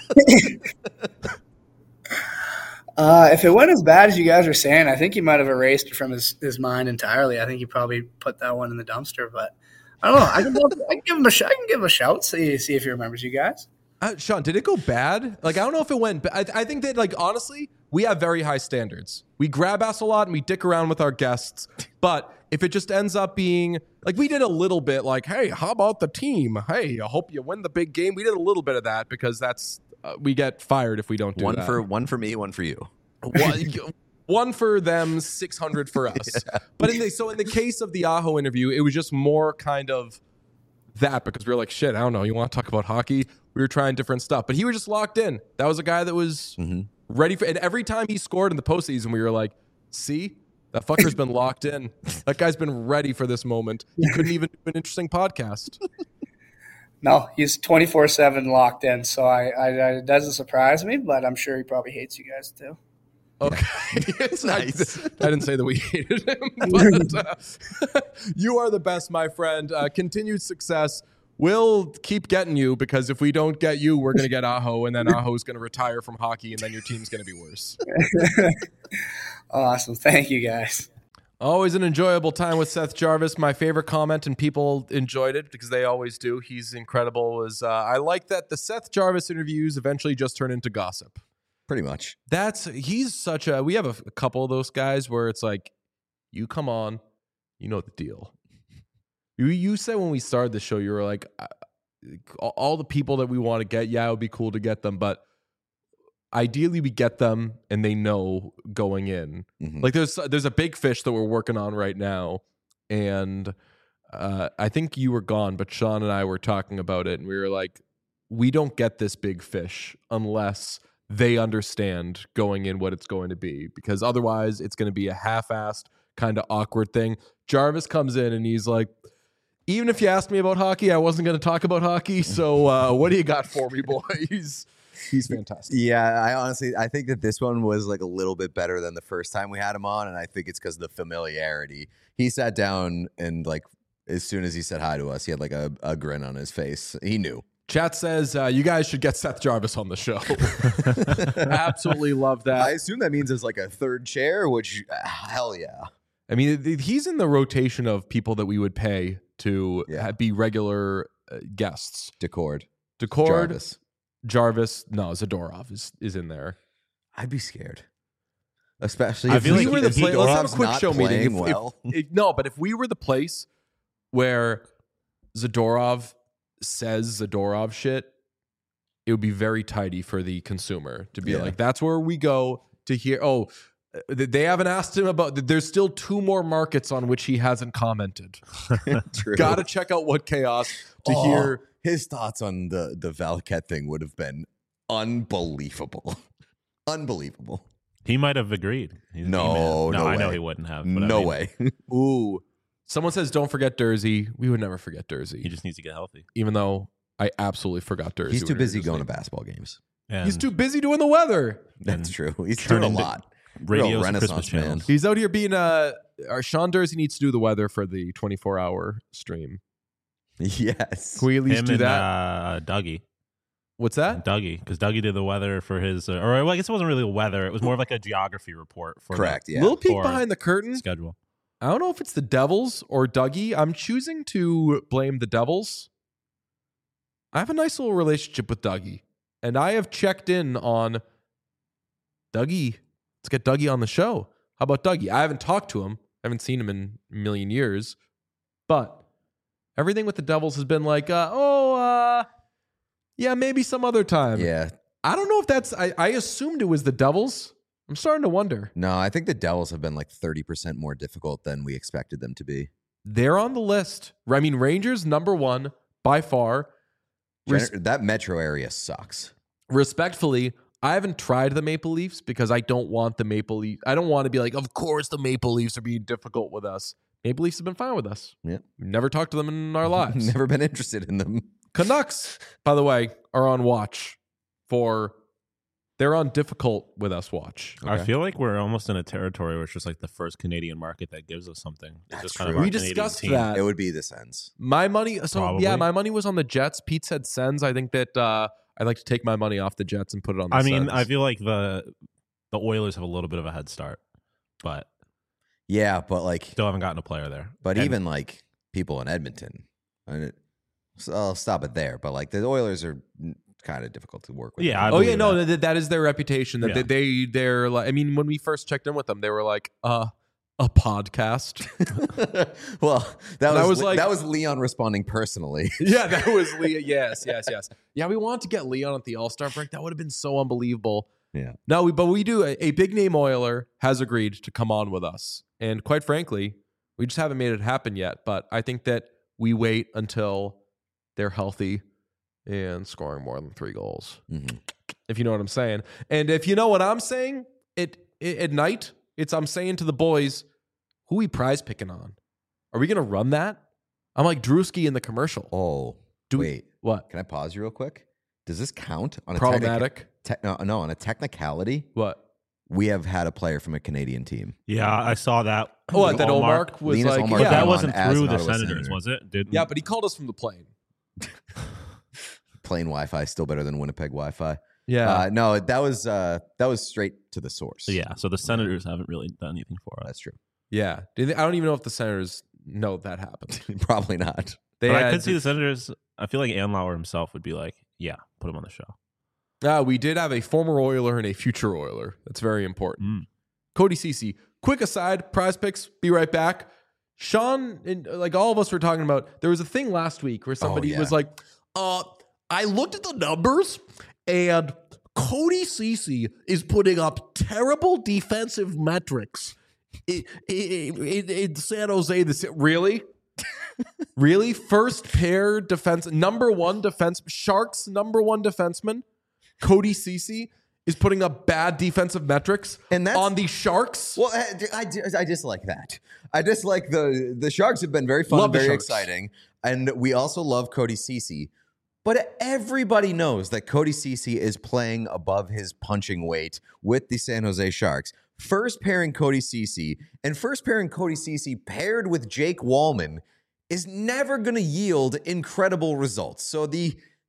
If it went as bad as you guys are saying, I think he might have erased it from his mind entirely. I think he probably put that one in the dumpster. But I don't know. I can give him a shout. I can give him a shout. See if he remembers you guys. Sean, did it go bad? Like, I don't know if it went. I think that, like, honestly, we have very high standards. We grab ass a lot and we dick around with our guests. But if it just ends up being like we did a little bit, like, hey, how about the team? Hey, I hope you win the big game. We did a little bit of that because that's we get fired if we don't do that. One for me, one for you. One for them, 600 for us. Yeah. But in the case of the Aho interview, it was just more kind of that because we were like, shit, I don't know. You want to talk about hockey? We were trying different stuff, but he was just locked in. That was a guy that was ready for. And every time he scored in the postseason, we were like, see, that fucker's been locked in. That guy's been ready for this moment. He couldn't even do an interesting podcast. No, he's 24/7 locked in. So it doesn't surprise me, but I'm sure he probably hates you guys too. Okay, it's nice. I didn't say that we hated him, but you are the best, my friend. Continued success. We'll keep getting you because if we don't get you, we're going to get Aho, and then Aho's going to retire from hockey, and then your team's going to be worse. Awesome. Thank you, guys. Always an enjoyable time with Seth Jarvis. My favorite comment, and people enjoyed it because they always do. He's incredible. Was I like that the Seth Jarvis interviews eventually just turn into gossip. Pretty much. He's such a. We have a couple of those guys where it's like, you come on, you know the deal. You said when we started the show, you were like, all the people that we want to get, yeah, it would be cool to get them, but ideally we get them and they know going in. Mm-hmm. Like there's a big fish that we're working on right now, and I think you were gone, but Sean and I were talking about it, and we were like, we don't get this big fish unless they understand going in what it's going to be, because otherwise it's going to be a half-assed kind of awkward thing. Jarvis comes in and he's like, even if you asked me about hockey, I wasn't going to talk about hockey. So what do you got for me, boys? He's fantastic. Yeah, I think that this one was like a little bit better than the first time we had him on, and I think it's because of the familiarity. He sat down and like as soon as he said hi to us, he had like a grin on his face. He knew. Chat says you guys should get Seth Jarvis on the show. Absolutely love that. I assume that means it's like a third chair, which hell yeah. I mean, he's in the rotation of people that we would pay to be regular guests. Decord. Jarvis. No, Zadorov is in there. I'd be scared. Especially if we were the place. Let's have a quick not show meeting. Well. But if we were the place where Zadorov says Zadorov shit, it would be very tidy for the consumer to be like, that's where we go to hear. Oh, they haven't asked him about. There's still 2 more markets on which he hasn't commented. True. Got to check out What Chaos to hear his thoughts on the Valquette thing. Would have been unbelievable. Unbelievable. He might have agreed. No, I way. know he wouldn't have. No way. Ooh. Someone says, don't forget Dursey. We would never forget Dursey. He just needs to get healthy. Even though I absolutely forgot Dursey. He's too busy going to baseball games. He's too busy doing the weather. That's true. He's doing a lot. Radio Renaissance man. He's out here being our Sean Dursey needs to do the weather for the 24-hour stream. Yes. Can we at least do that? Dougie. What's that? Dougie, because Dougie did the weather for his, or I guess it wasn't really weather. It was more of like a geography report. For Correct, yeah. Little peek behind the curtain. Schedule. I don't know if it's the Devils or Dougie. I'm choosing to blame the Devils. I have a nice little relationship with Dougie, and I have checked in on Dougie. Let's get Dougie on the show. How about Dougie? I haven't talked to him. I haven't seen him in a million years, but everything with the Devils has been like, yeah, maybe some other time. Yeah. I don't know if that's, I assumed it was the Devils. I'm starting to wonder. No, I think the Devils have been like 30% more difficult than we expected them to be. They're on the list. I mean, Rangers, number 1 by far. That metro area sucks. Respectfully, I haven't tried the Maple Leafs because I don't want the Maple Leafs. I don't want to be like, of course the Maple Leafs are being difficult with us. Maple Leafs have been fine with us. Yeah. We've never talked to them in our lives. Never been interested in them. Canucks, by the way, are on watch they're on difficult with us watch. Okay. I feel like we're almost in a territory where it's just like the first Canadian market that gives us something. That's just true. kind of We discussed that. It would be the Sens. My money, Probably. my money was on the Jets. Pete said Sens. I think that I'd like to take my money off the Jets and put it on the Sens. I feel like the Oilers have a little bit of a head start, but yeah, but like still haven't gotten a player there. But even like people in Edmonton, so I'll stop it there. But like the Oilers are kind of difficult to work with. Yeah. That is their reputation. That they're like. I mean, when we first checked in with them, they were like, a podcast. Well, that was Leon responding personally. Yeah, that was Leon. Yes. Yeah, we wanted to get Leon at the All-Star break. That would have been so unbelievable. Yeah. No, but we do. A big name Oiler has agreed to come on with us, and quite frankly, we just haven't made it happen yet. But I think that we wait until they're healthy and scoring more than 3 goals. Mm-hmm. If you know what I'm saying. And if you know what I'm saying, at night, I'm saying to the boys, who we prize picking on? Are we going to run that? I'm like Drewski in the commercial. Oh, wait. What? Can I pause you real quick? Does this count on a problematic? No, on a technicality? What? We have had a player from a Canadian team. Yeah, I saw that. Oh, that Olmark was Linus like, Olmark yeah, that wasn't as through an the Ottawa Senators, Senator. was it? Yeah, but he called us from the plane. Plain Wi-Fi still better than Winnipeg Wi-Fi. Yeah. No, that was straight to the source. Yeah, so the Senators haven't really done anything for us. That's true. Yeah. I don't even know if the Senators know that happened. Probably not. I could see the Senators. I feel like Anlauer himself would be like, yeah, put him on the show. We did have a former Oiler and a future Oiler. That's very important. Cody Ceci. Quick aside, prize picks, be right back. Sean, and like all of us were talking about, there was a thing last week where somebody was like, I looked at the numbers and Cody Ceci is putting up terrible defensive metrics in San Jose. Really? Really? First pair defense, number 1 defense, Sharks number 1 defenseman, Cody Ceci is putting up bad defensive metrics on the Sharks. Well, I just like that. I just like the Sharks have been very fun and very exciting. And we also love Cody Ceci. But everybody knows that Cody Ceci is playing above his punching weight with the San Jose Sharks. First pairing Cody Ceci paired with Jake Wallman is never going to yield incredible results. So the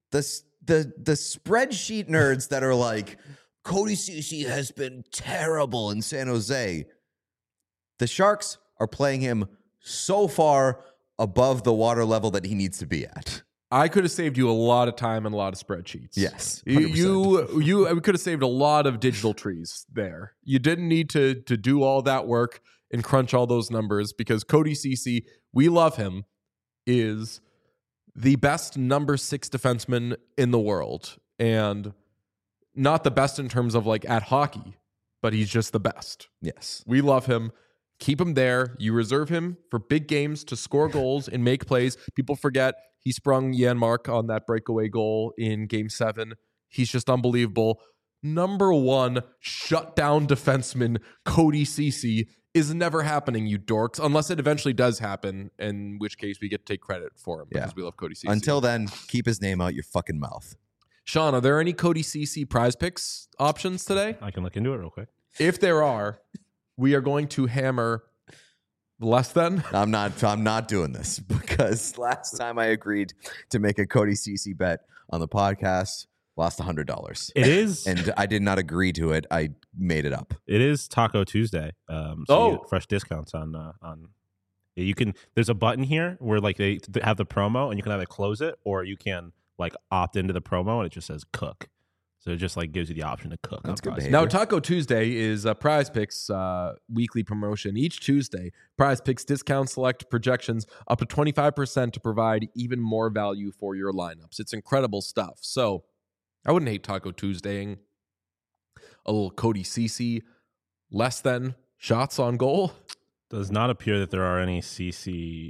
the spreadsheet nerds that are like, Cody Ceci has been terrible in San Jose. The Sharks are playing him so far above the water level that he needs to be at. I could have saved you a lot of time and a lot of spreadsheets. Yes, 100%. We could have saved a lot of digital trees there. You didn't need to do all that work and crunch all those numbers, because Cody Ceci, we love him, is the best number 6 defenseman in the world, and not the best in terms of like at hockey, but he's just the best. Yes, we love him. Keep him there. You reserve him for big games to score goals and make plays. People forget he sprung Janmark on that breakaway goal in Game 7. He's just unbelievable. Number 1 shutdown defenseman Cody Ceci is never happening, you dorks, unless it eventually does happen, in which case we get to take credit for him because we love Cody Ceci. Until then, keep his name out your fucking mouth. Sean, are there any Cody Ceci prize picks options today? I can look into it real quick. If there are, we are going to hammer less than. I'm not doing this, because last time I agreed to make a Cody Ceci bet on the podcast, lost $100. It is, and I did not agree to it. I made it up. It is Taco Tuesday. You get fresh discounts on. You can. There's a button here where like they have the promo, and you can either close it or you can like opt into the promo, and it just says cook. So it just like gives you the option to cook. That's good behavior. Now, Taco Tuesday is a Prize Picks weekly promotion. Each Tuesday, Prize Picks discount select projections up to 25% to provide even more value for your lineups. It's incredible stuff. So I wouldn't hate Taco Tuesdaying. A little Cody Ceci, less than shots on goal. Does not appear that there are any CC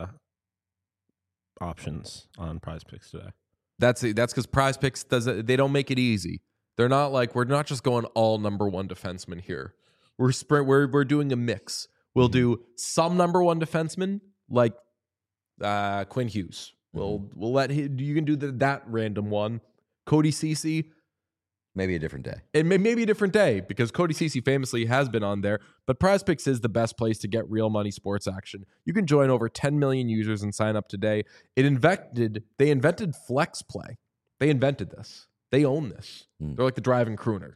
options on Prize Picks today. That's because Prize Picks they don't make it easy. They're not like, we're not just going all number 1 defensemen here. We're doing a mix. We'll do some number 1 defensemen like Quinn Hughes. We'll let you can do that random one. Cody Ceci, maybe a different day. It may be a different day, because Cody Ceci famously has been on there. But Prize Picks is the best place to get real money sports action. You can join over 10 million users and sign up today. They invented Flex Play. They invented this. They own this. They're like the driving crooner.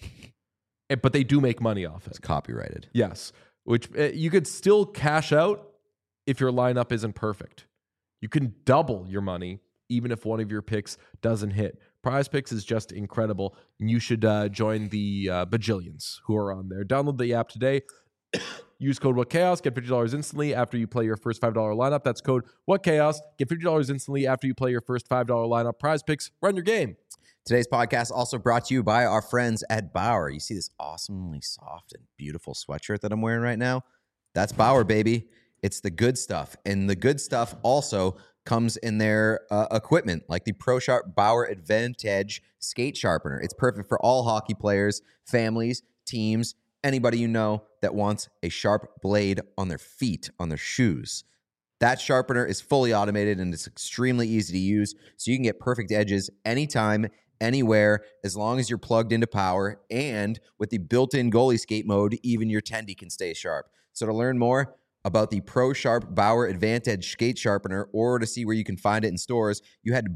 But they do make money off it. It's copyrighted. Yes, which you could still cash out if your lineup isn't perfect. You can double your money even if one of your picks doesn't hit. Prize Picks is just incredible, and you should join the bajillions who are on there. Download the app today. Use code WhatChaos. Get $50 instantly after you play your first $5 lineup. That's code WhatChaos. Get $50 instantly after you play your first $5 lineup. Prize Picks. Run your game. Today's podcast also brought to you by our friends at Bauer. You see this awesomely soft and beautiful sweatshirt that I'm wearing right now? That's Bauer, baby. It's the good stuff. And the good stuff also comes in their equipment, like the ProSharp Bauer Advantage skate sharpener. It's perfect for all hockey players, families, teams, anybody you know that wants a sharp blade on their feet, on their shoes. That sharpener is fully automated and it's extremely easy to use, so you can get perfect edges anytime, anywhere, as long as you're plugged into power. And with the built-in goalie skate mode, even your tendy can stay sharp. So to learn more about the ProSharp Bauer Advantage skate sharpener, or to see where you can find it in stores, you head to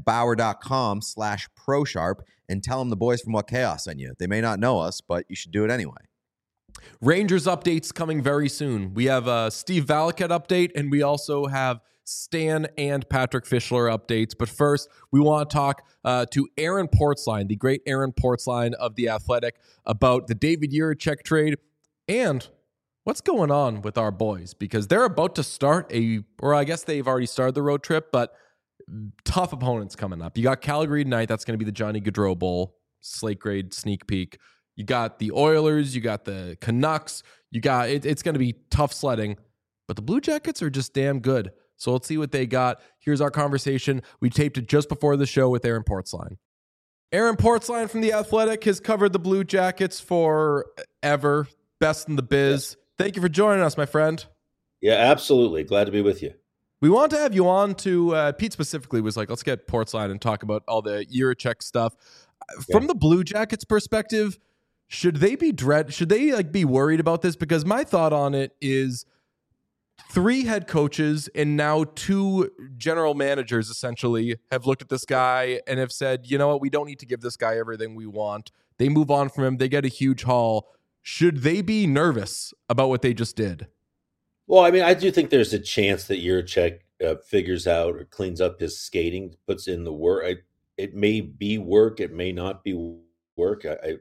bauer.com/ProSharp and tell them the boys from What Chaos sent you. They may not know us, but you should do it anyway. Rangers updates coming very soon. We have a Steve Valiquette update, and we also have Stan and Patrick Fischler updates. But first, we want to talk to Aaron Portzline, the great Aaron Portzline of The Athletic, about the David Jiricek trade and what's going on with our boys, because they're about to start or I guess they've already started the road trip, but tough opponents coming up. You got Calgary tonight. That's going to be the Johnny Gaudreau Bowl, slate grade sneak peek. You got the Oilers. You got the Canucks. It's going to be tough sledding, but the Blue Jackets are just damn good. So let's see what they got. Here's our conversation. We taped it just before the show with Aaron Portzline. Aaron Portzline from The Athletic has covered the Blue Jackets forever. Best in the biz. Thank you for joining us, my friend. Yeah, absolutely. Glad to be with you. We want to have you on to, Pete specifically was like, let's get Portzline and talk about all the Jiricek stuff. From the Blue Jackets perspective, should they be worried about this? Because my thought on it is 3 head coaches and now 2 general managers essentially have looked at this guy and have said, you know what, we don't need to give this guy everything we want. They move on from him. They get a huge haul. Should they be nervous about what they just did? Well, I mean, I do think there's a chance that Jiricek figures out or cleans up his skating, puts in the work. It may be work. It may not be work.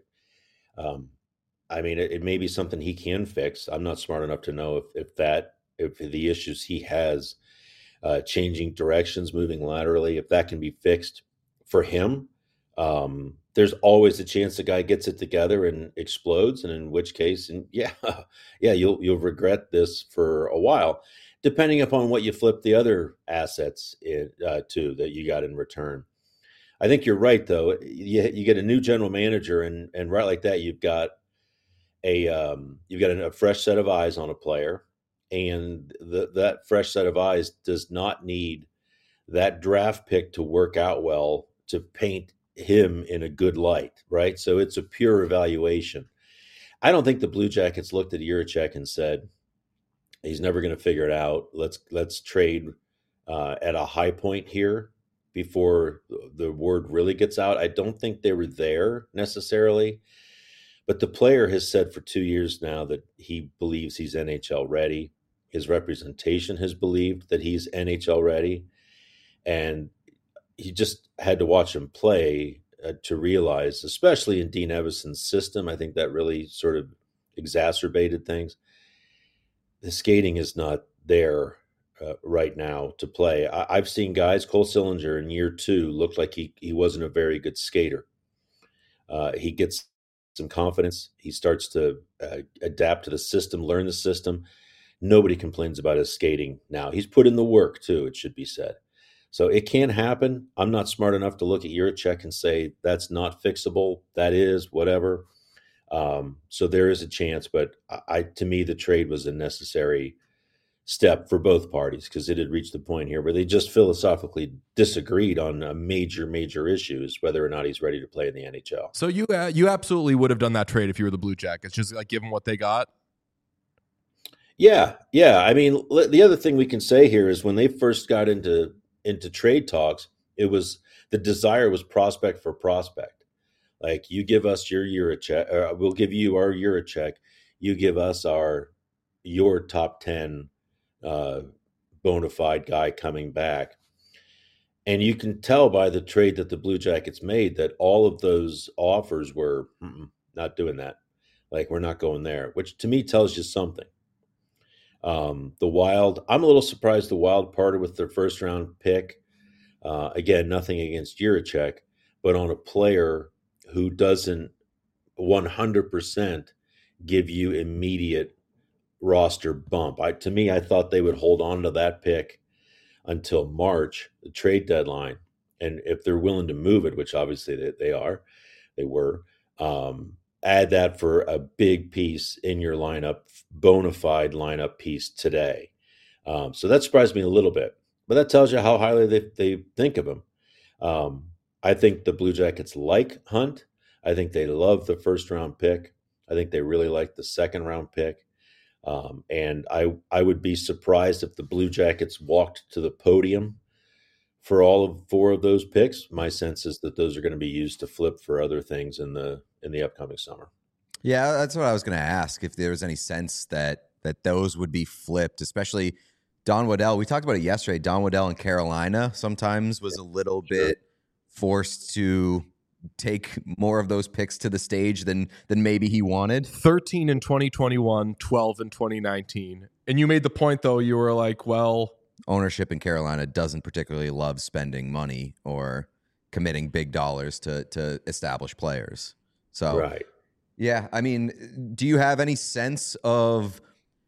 I mean, it may be something he can fix. I'm not smart enough to know if the issues he has, changing directions, moving laterally, if that can be fixed for him. There's always a chance the guy gets it together and explodes, and in which case, you'll regret this for a while, depending upon what you flip the other assets to that you got in return. I think you're right, though. You get a new general manager, and right like that, you've got a fresh set of eyes on a player, and that fresh set of eyes does not need that draft pick to work out well to paint him in a good light, right? So it's a pure evaluation. I don't think the Blue Jackets looked at Jiricek and said, he's never going to figure it out. Let's trade at a high point here before the word really gets out. I don't think they were there necessarily, but the player has said for 2 years now that he believes he's NHL ready. His representation has believed that he's NHL ready, and he just had to watch him play to realize, especially in Dean Evason's system, I think that really sort of exacerbated things. The skating is not there right now to play. I've seen guys, Cole Sillinger in year 2 looked like he wasn't a very good skater. He gets some confidence. He starts to adapt to the system, learn the system. Nobody complains about his skating now. He's put in the work too, it should be said. So it can happen. I'm not smart enough to look at Jiricek and say that's not fixable. That is, whatever. So there is a chance, but to me, the trade was a necessary step for both parties because it had reached the point here where they just philosophically disagreed on major issues, whether or not he's ready to play in the NHL. So you absolutely would have done that trade if you were the Blue Jackets, just like give them what they got? Yeah. I mean, the other thing we can say here is when they first got into trade talks, it was the desire was prospect for prospect. Like, you give us your Jiricek, we'll give you our Jiricek. You give us your top 10 bona fide guy coming back. And you can tell by the trade that the Blue Jackets made that all of those offers were not doing that. Like, we're not going there, which to me tells you something. The Wild, I'm a little surprised the Wild parted with their first round pick. Again, nothing against Jiricek, but on a player who doesn't 100% give you immediate roster bump. To me, I thought they would hold on to that pick until March, the trade deadline. And if they're willing to move it, which obviously they were, add that for a big piece in your lineup, bona fide lineup piece today. So that surprised me a little bit, but that tells you how highly they think of him. I think the Blue Jackets like Hunt. I think they love the first round pick. I think they really like the second round pick. And I would be surprised if the Blue Jackets walked to the podium for all of 4 of those picks. My sense is that those are going to be used to flip for other things in the upcoming summer. Yeah, that's what I was going to ask, if there was any sense that those would be flipped, especially Don Waddell. We talked about it yesterday. Don Waddell in Carolina sometimes was a little bit forced to take more of those picks to the stage than maybe he wanted. 13 in 2021, 12 in 2019. And you made the point, though, you were like, well, ownership in Carolina doesn't particularly love spending money or committing big dollars to establish players. So, right. Yeah, I mean, do you have any sense of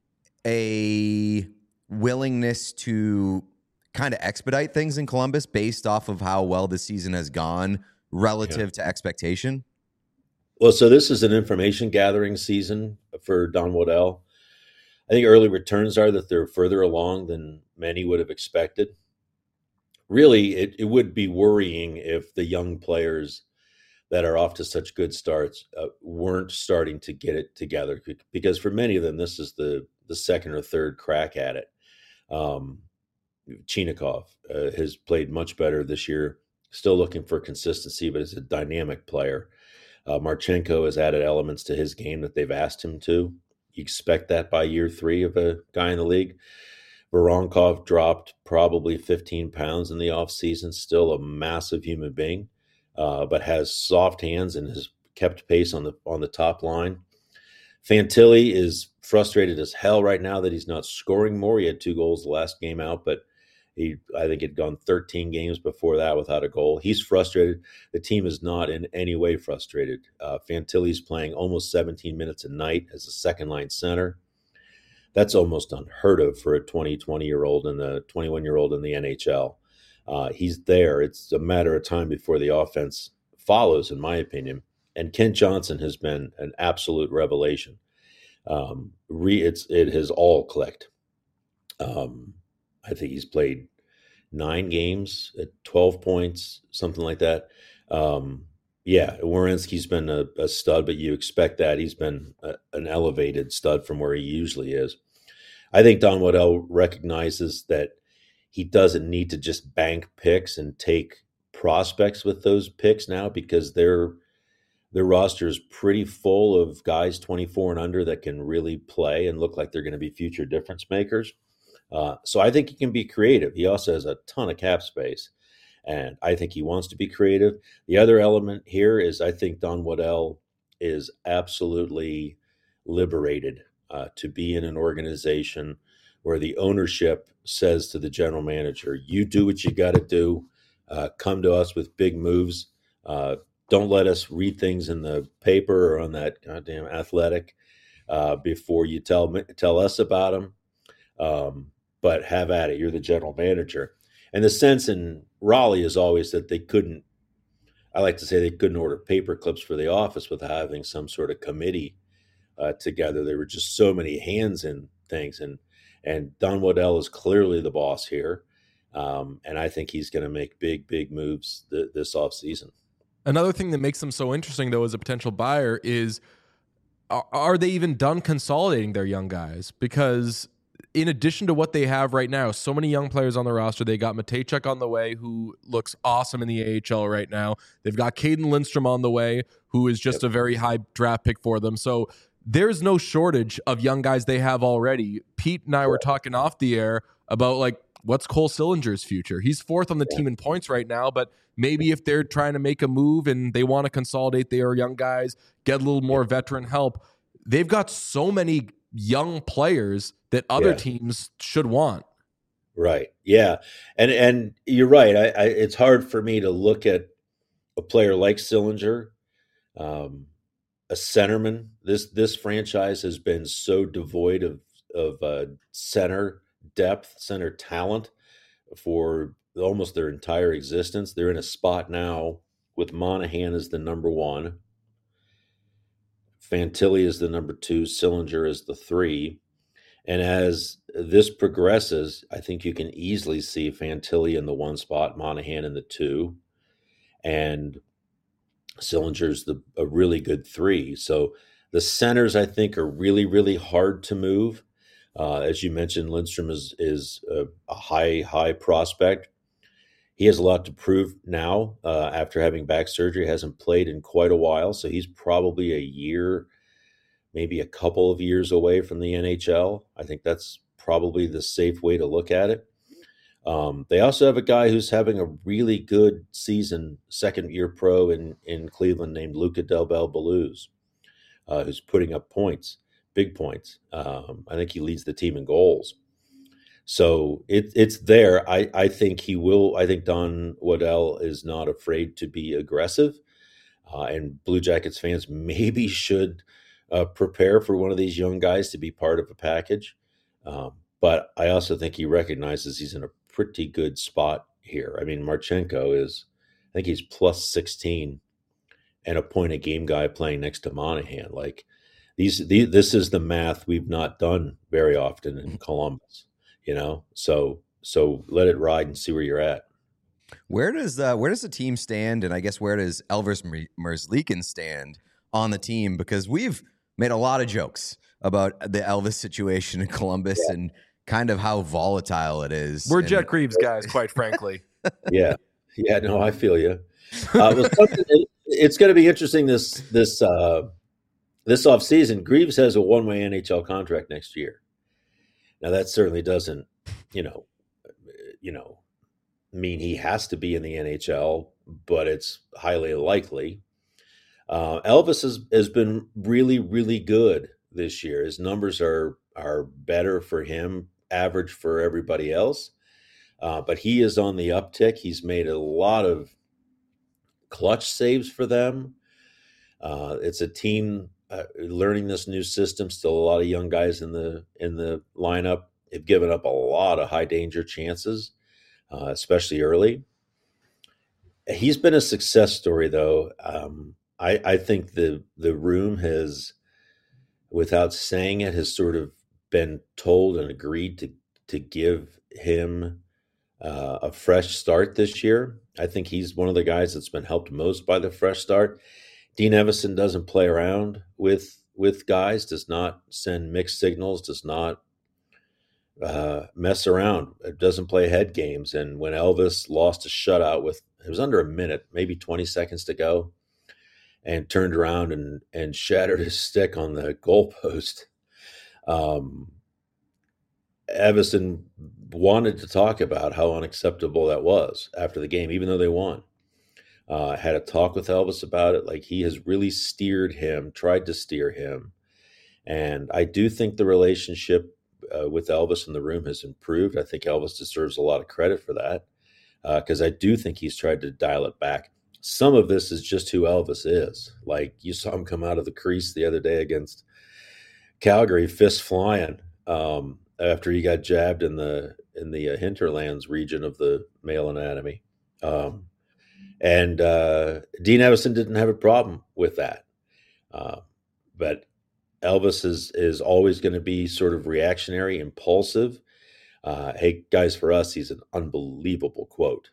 a willingness to kind of expedite things in Columbus based off of how well the season has gone relative to expectation? Well, so this is an information gathering season for Don Waddell. I think early returns are that they're further along than many would have expected. Really, it would be worrying if the young players that are off to such good starts weren't starting to get it together, because for many of them, this is the second or third crack at it. Chinakhov has played much better this year. Still looking for consistency, but is a dynamic player. Marchenko has added elements to his game that they've asked him to. You expect that by year 3 of a guy in the league. Voronkov dropped probably 15 pounds in the offseason, still a massive human being, but has soft hands and has kept pace on the top line. Fantilli is frustrated as hell right now that he's not scoring more. He had 2 goals the last game out, but I think he'd gone 13 games before that without a goal. He's frustrated. The team is not in any way frustrated. Fantilli's playing almost 17 minutes a night as a second-line center. That's almost unheard of for a 20-year-old and a 21-year-old in the NHL. He's there. It's a matter of time before the offense follows, in my opinion. And Kent Johnson has been an absolute revelation. It has all clicked. I think he's played 9 games at 12 points, something like that. Werenski's been a stud, but you expect that. He's been an elevated stud from where he usually is. I think Don Waddell recognizes that he doesn't need to just bank picks and take prospects with those picks now, because their roster is pretty full of guys 24 and under that can really play and look like they're going to be future difference makers. So I think he can be creative. He also has a ton of cap space, and I think he wants to be creative. The other element here is I think Don Waddell is absolutely liberated to be in an organization where the ownership says to the general manager, you do what you got to do. Come to us with big moves. Don't let us read things in the paper or on that goddamn Athletic before you tell us about them. But have at it. You're the general manager. And the sense in Raleigh is always that they couldn't order paper clips for the office without having some sort of committee together. There were just so many hands in things. And Don Waddell is clearly the boss here. And I think he's going to make big moves this offseason. Another thing that makes them so interesting, though, as a potential buyer is, are they even done consolidating their young guys? Because in addition to what they have right now, so many young players on the roster. They got Matejchuk on the way, who looks awesome in the AHL right now. They've got Caden Lindstrom on the way, who is just a very high draft pick for them. So there's no shortage of young guys they have already. Pete and I were talking off the air about, like, what's Cole Sillinger's future? He's 4th on the team in points right now, but maybe if they're trying to make a move and they want to consolidate their young guys, get a little more veteran help, they've got so many young players that other teams should want. Right. Yeah. And you're right. It's hard for me to look at a player like Sillinger, a centerman. This franchise has been so devoid of center depth, center talent for almost their entire existence. They're in a spot now with Monahan as the number 1. Fantilli is the number 2. Sillinger is the 3. And as this progresses, I think you can easily see Fantilli in the 1 spot, Monahan in the 2, and Sillinger's a really good 3. So the centers, I think, are really, really hard to move. As you mentioned, Lindstrom is a high prospect. He has a lot to prove now after having back surgery. Hasn't played in quite a while, so he's probably a year, maybe a couple of years away from the NHL. I think that's probably the safe way to look at it. They also have a guy who's having a really good season, second-year pro in Cleveland, named Luca Del Bel Belluz, who's putting up points, big points. I think he leads the team in goals. So it's there. I think he will. I think Don Waddell is not afraid to be aggressive, and Blue Jackets fans maybe should prepare for one of these young guys to be part of a package. But I also think he recognizes he's in a pretty good spot here. I mean, Marchenko is, I think he's plus 16 and a point a game guy playing next to Monahan. Like this is the math we've not done very often in Columbus. You know, so let it ride and see where you're at. Where does the team stand, and I guess where does Elvis Merzlikins stand on the team? Because we've made a lot of jokes about the Elvis situation in Columbus and kind of how volatile it is. We're Jet Greaves guys, quite frankly. Yeah. No, I feel you. It's going to be interesting this offseason. Greaves has a one-way NHL contract next year. Now that certainly doesn't, mean he has to be in the NHL, but it's highly likely. Elvis has been really, really good this year. His numbers are better for him, average for everybody else. But he is on the uptick. He's made a lot of clutch saves for them. It's a team learning this new system. Still a lot of young guys in the lineup. They've given up a lot of high danger chances, especially early. He's been a success story, though. I think the room has, without saying it, has sort of been told and agreed to give him a fresh start this year. I think he's one of the guys that's been helped most by the fresh start. Dean Evason doesn't play around with guys, does not send mixed signals, does not mess around, doesn't play head games. And when Elvis lost a shutout it was under a minute, maybe 20 seconds to go, and turned around and shattered his stick on the goalpost, Evason wanted to talk about how unacceptable that was after the game, even though they won. Had a talk with Elvis about it. Like, he has really tried to steer him. And I do think the relationship with Elvis in the room has improved. I think Elvis deserves a lot of credit for that, because I do think he's tried to dial it back. Some of this is just who Elvis is. Like, you saw him come out of the crease the other day against Calgary, fist flying, after he got jabbed in the hinterlands region of the male anatomy. And Dean Evason didn't have a problem with that. But Elvis is always going to be sort of reactionary, impulsive. Hey, guys, for us, he's an unbelievable quote.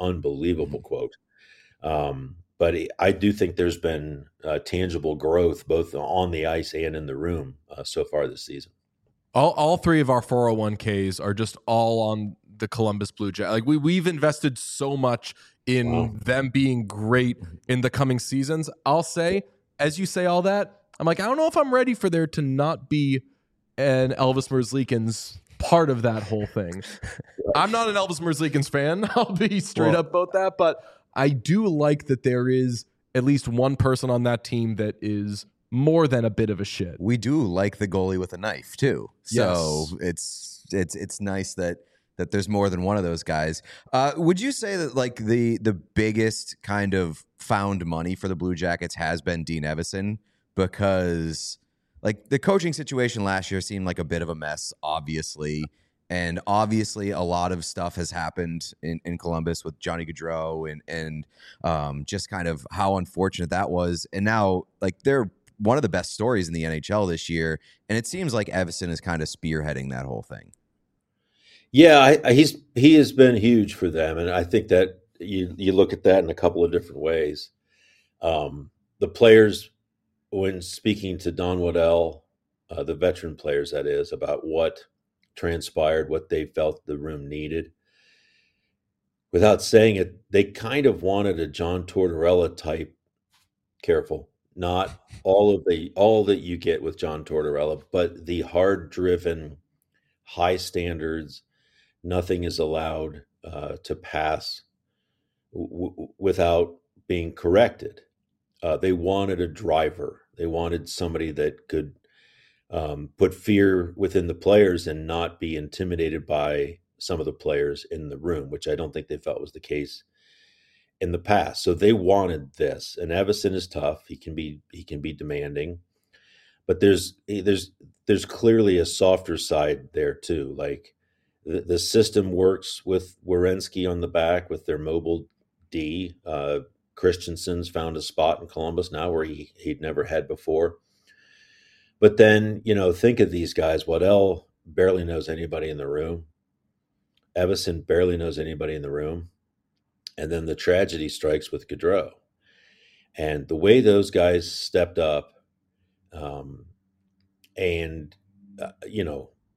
But I do think there's been tangible growth both on the ice and in the room so far this season. All three of our 401ks are just all on the Columbus Blue Jackets. Like, we've invested so much in them being great in the coming seasons. I'll say, as you say all that, I'm like, I don't know if I'm ready for there to not be an Elvis Merzlikins part of that whole thing. I'm not an Elvis Merzlikins fan. I'll be straight up about that, but I do like that there is at least one person on that team that is more than a bit of a shit. We do like the goalie with a knife too. So Yes. it's nice that there's more than one of those guys. Would you say that, like, the biggest kind of found money for the Blue Jackets has been Dean Evason? Because, like, the coaching situation last year seemed like a bit of a mess, obviously. And obviously a lot of stuff has happened in Columbus with Johnny Gaudreau and just kind of how unfortunate that was. And now, like, they're one of the best stories in the NHL this year. And it seems like Evason is kind of spearheading that whole thing. Yeah, he has been huge for them. And I think that you look at that in a couple of different ways. The players, when speaking to Don Waddell, the veteran players, that is, about what transpired, what they felt the room needed, without saying it, they kind of wanted a John Tortorella type. Careful, not all that you get with John Tortorella, but the hard driven, high standards. Nothing is allowed to pass without being corrected. They wanted a driver. They wanted somebody that could put fear within the players and not be intimidated by some of the players in the room, which I don't think they felt was the case in the past. So they wanted this. And Evason is tough. He can be demanding, but there's clearly a softer side there too. Like, the system works with Werenski on the back with their mobile D. Christensen's found a spot in Columbus now where he'd never had before. But then, think of these guys. Waddell barely knows anybody in the room. Evason barely knows anybody in the room. And then the tragedy strikes with Gaudreau. And the way those guys stepped up,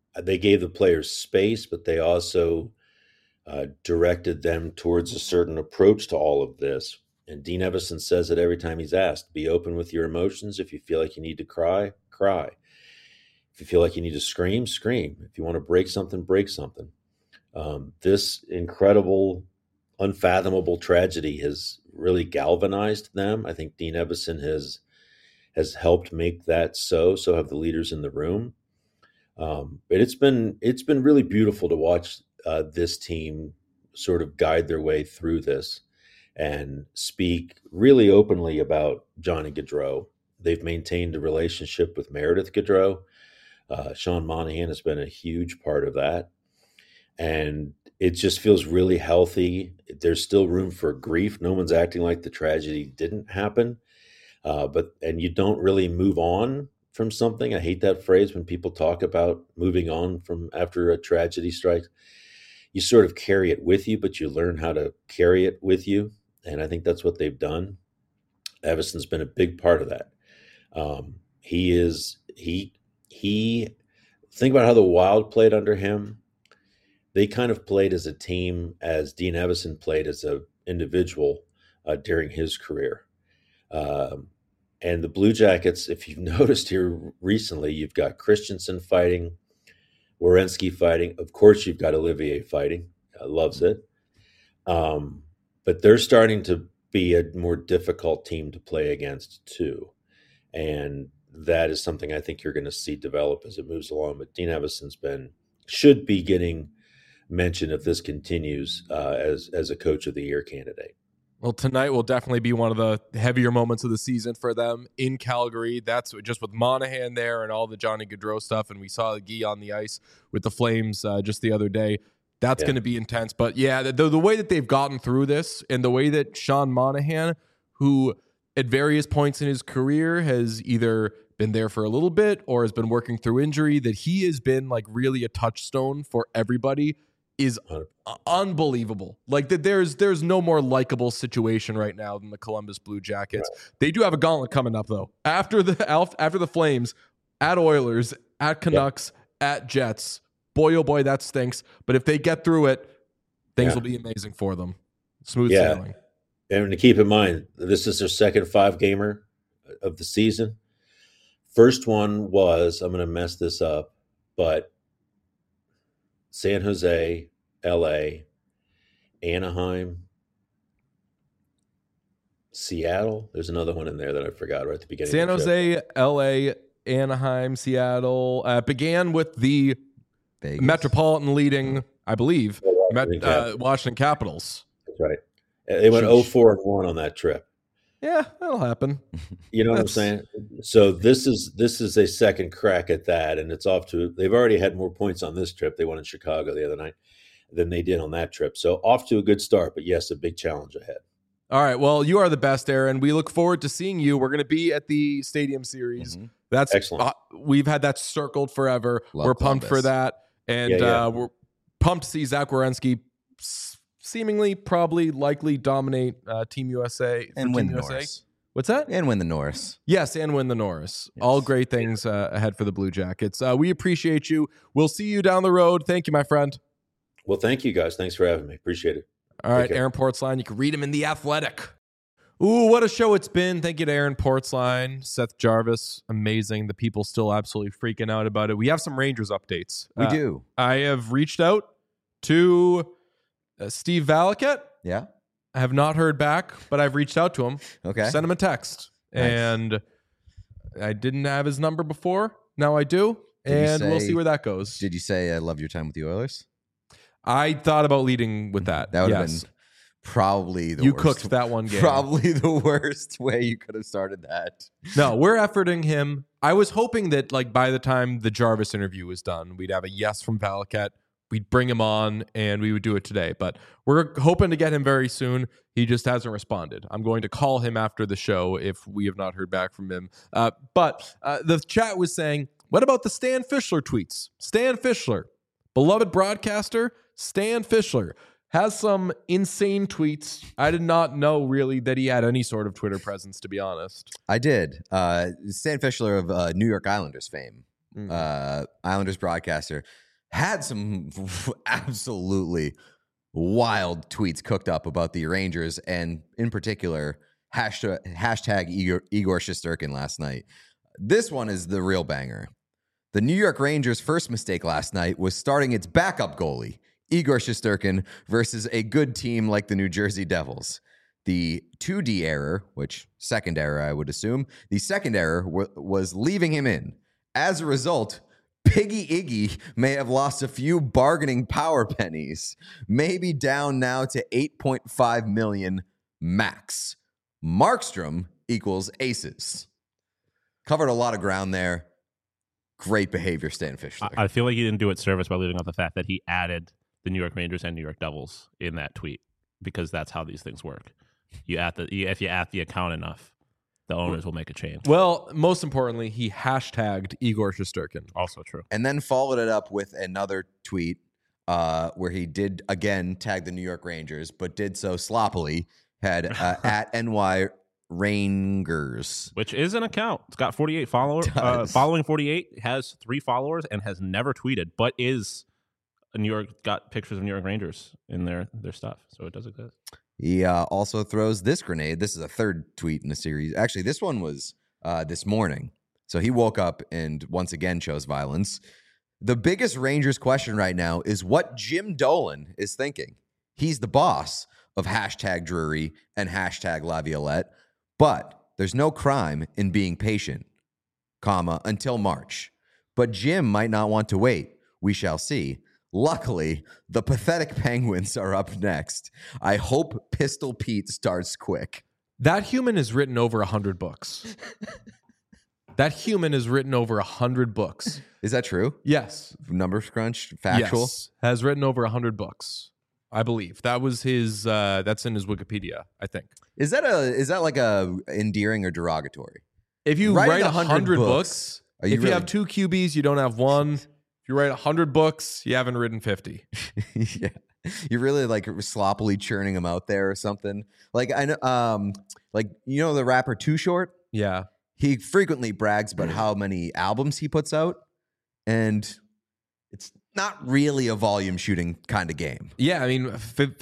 they gave the players space, but they also directed them towards a certain approach to all of this. And Dean Evison says it every time he's asked: be open with your emotions. If you feel like you need to cry, cry. If you feel like you need to scream, scream. If you want to break something, break something. This incredible, unfathomable tragedy has really galvanized them. I think Dean Evison has helped make that so. So have the leaders in the room. But it's been really beautiful to watch this team sort of guide their way through this and speak really openly about Johnny Gaudreau. They've maintained a relationship with Meredith Gaudreau. Sean Monahan has been a huge part of that. And it just feels really healthy. There's still room for grief. No one's acting like the tragedy didn't happen. And you don't really move on from something. I hate that phrase when people talk about moving on from after a tragedy strikes. You sort of carry it with you, but you learn how to carry it with you. And I think that's what they've done. Evison's been a big part of that. He think about how the Wild played under him. They kind of played as a team as Dean Evison played as an individual during his career. And the Blue Jackets, if you've noticed here recently, you've got Christensen fighting, Werenski fighting. Of course, you've got Olivier fighting. Loves it. But they're starting to be a more difficult team to play against, too. And that is something I think you're going to see develop as it moves along. But Dean Evison's should be getting mentioned if this continues as a Coach of the Year candidate. Well, tonight will definitely be one of the heavier moments of the season for them in Calgary. That's just with Monahan there and all the Johnny Gaudreau stuff. And we saw Guy on the ice with the Flames just the other day. That's going to be intense. But yeah, the way that they've gotten through this and the way that Sean Monahan, who at various points in his career has either been there for a little bit or has been working through injury, that he has been like really a touchstone for everybody is unbelievable. Like that there's no more likable situation right now than the Columbus Blue Jackets. Right. They do have a gauntlet coming up though. After the Flames, at Oilers, at Canucks, at Jets. Boy, oh boy, that stinks. But if they get through it, things will be amazing for them. Smooth sailing. And to keep in mind, this is their second 5-gamer of the season. First one was, I'm going to mess this up, but San Jose, LA, Anaheim, Seattle. There's another one in there that I forgot right at the beginning. San Jose, LA, Anaheim, Seattle. Began with the Vegas. Metropolitan leading, I believe, Washington Capitals. That's right. They went 0-4-1 on that trip. Yeah, that'll happen. You know what I'm saying? So this is a second crack at that, and it's off to. They've already had more points on this trip. They won in Chicago the other night than they did on that trip. So off to a good start, but yes, a big challenge ahead. All right. Well, you are the best, Aaron. We look forward to seeing you. We're going to be at the Stadium Series. Mm-hmm. That's excellent. We've had that circled forever. We're pumped for that. And we're pumped to see Zach Werenski seemingly, probably, likely dominate Team USA. And win Team the USA. Norris. What's that? And win the Norris. Yes, and win the Norris. Yes. All great things ahead for the Blue Jackets. We appreciate you. We'll see you down the road. Thank you, my friend. Well, thank you, guys. Thanks for having me. Appreciate it. All right, Aaron Portzline. You can read him in The Athletic. Ooh, what a show it's been. Thank you to Aaron Portzline, Seth Jarvis. Amazing. The people still absolutely freaking out about it. We have some Rangers updates. We do. I have reached out to Steve Valiquette. Yeah. I have not heard back, but I've reached out to him. Okay. Sent him a text. Nice. And I didn't have his number before. Now I do. We'll see where that goes. Did you say I love your time with the Oilers? I thought about leading with that. That would have been probably the worst. You cooked that one game. Probably the worst way you could have started that. No, we're efforting him. I was hoping that like by the time the Jarvis interview was done, we'd have a yes from Valiquette. We'd bring him on and we would do it today. But we're hoping to get him very soon. He just hasn't responded. I'm going to call him after the show if we have not heard back from him. But the chat was saying, what about the Stan Fischler tweets? Stan Fischler, beloved broadcaster, Stan Fischler has some insane tweets. I did not know really that he had any sort of Twitter presence, to be honest. I did. Stan Fischler of New York Islanders fame. Islanders broadcaster, had some absolutely wild tweets cooked up about the Rangers, and in particular, hashtag Igor Shesterkin last night. This one is the real banger. The New York Rangers' first mistake last night was starting its backup goalie, Igor Shesterkin, versus a good team like the New Jersey Devils. The 2D error, which second error I would assume, the second error was leaving him in. As a result, Piggy Iggy may have lost a few bargaining power pennies, maybe down now to $8.5 million max. Markstrom equals aces. Covered a lot of ground there. Great behavior, Stan Fischler. I feel like he didn't do it service by leaving out the fact that he added the New York Rangers and New York Devils in that tweet, because that's how these things work. If you at the account enough, the owners will make a change. Well, most importantly, he hashtagged Igor Shesterkin. Also true. And then followed it up with another tweet where he did, again, tag the New York Rangers, but did so sloppily. Had at NY Rangers, which is an account. It's got 48 followers. Following 48, has 3 followers and has never tweeted, but is New York, got pictures of New York Rangers in their stuff. So it does exist. He also throws this grenade. This is a third tweet in the series. Actually, this one was this morning. So he woke up and once again chose violence. The biggest Rangers question right now is what Jim Dolan is thinking. He's the boss of hashtag Drury and hashtag Laviolette, but there's no crime in being patient, until March. But Jim might not want to wait. We shall see. Luckily, the pathetic Penguins are up next. I hope Pistol Pete starts quick. That human has written over 100 books. That human has written over 100 books. Is that true? Yes. Numbers crunch, factual? Yes, has written over 100 books, I believe. That was his, that's in his Wikipedia, I think. Is that like a endearing or derogatory? If you write 100 books, if you have 2 QBs, you don't have 1. If you write 100 books, you haven't written 50. Yeah. You're really like sloppily churning them out there or something. Like I know, the rapper Too Short? Yeah. He frequently brags about how many albums he puts out, and it's not really a volume shooting kind of game. Yeah, I mean,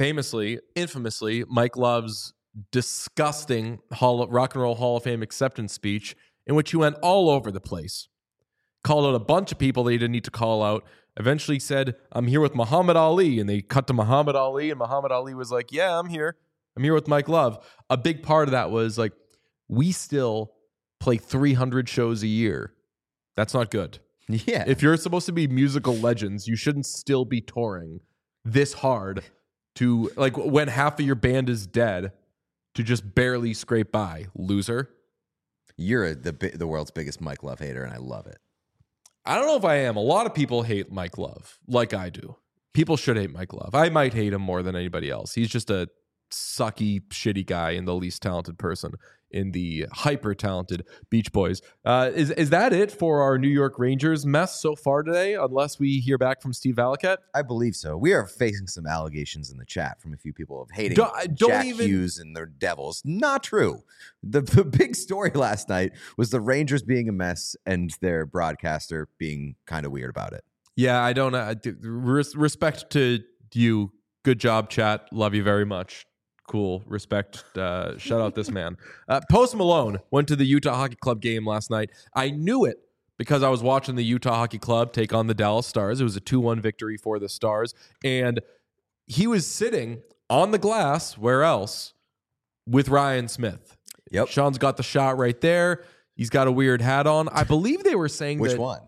infamously, Mike Love's disgusting Rock and Roll Hall of Fame acceptance speech, in which he went all over the place, called out a bunch of people that he didn't need to call out, eventually said, I'm here with Muhammad Ali, and they cut to Muhammad Ali, and Muhammad Ali was like, yeah, I'm here with Mike Love. A big part of that was like, we still play 300 shows a year. That's not good. Yeah. If you're supposed to be musical legends, you shouldn't still be touring this hard to, like, when half of your band is dead, to just barely scrape by. Loser. You're the world's biggest Mike Love hater, and I love it. I don't know if I am. A lot of people hate Mike Love, like I do. People should hate Mike Love. I might hate him more than anybody else. He's just a sucky, shitty guy and the least talented person in the hyper-talented Beach Boys. Is that it for our New York Rangers mess so far today, unless we hear back from Steve Valiquette? I believe so. We are facing some allegations in the chat from a few people of hating Jack Hughes and their Devils. Not true. The big story last night was the Rangers being a mess and their broadcaster being kind of weird about it. Yeah, I don't know. Respect to you. Good job, chat. Love you very much. Cool. Respect. Shout out this man. Post Malone went to the Utah Hockey Club game last night. I knew it because I was watching the Utah Hockey Club take on the Dallas Stars. It was a 2-1 victory for the Stars. And he was sitting on the glass, where else, with Ryan Smith. Yep. Sean's got the shot right there. He's got a weird hat on. I believe they were saying Which one?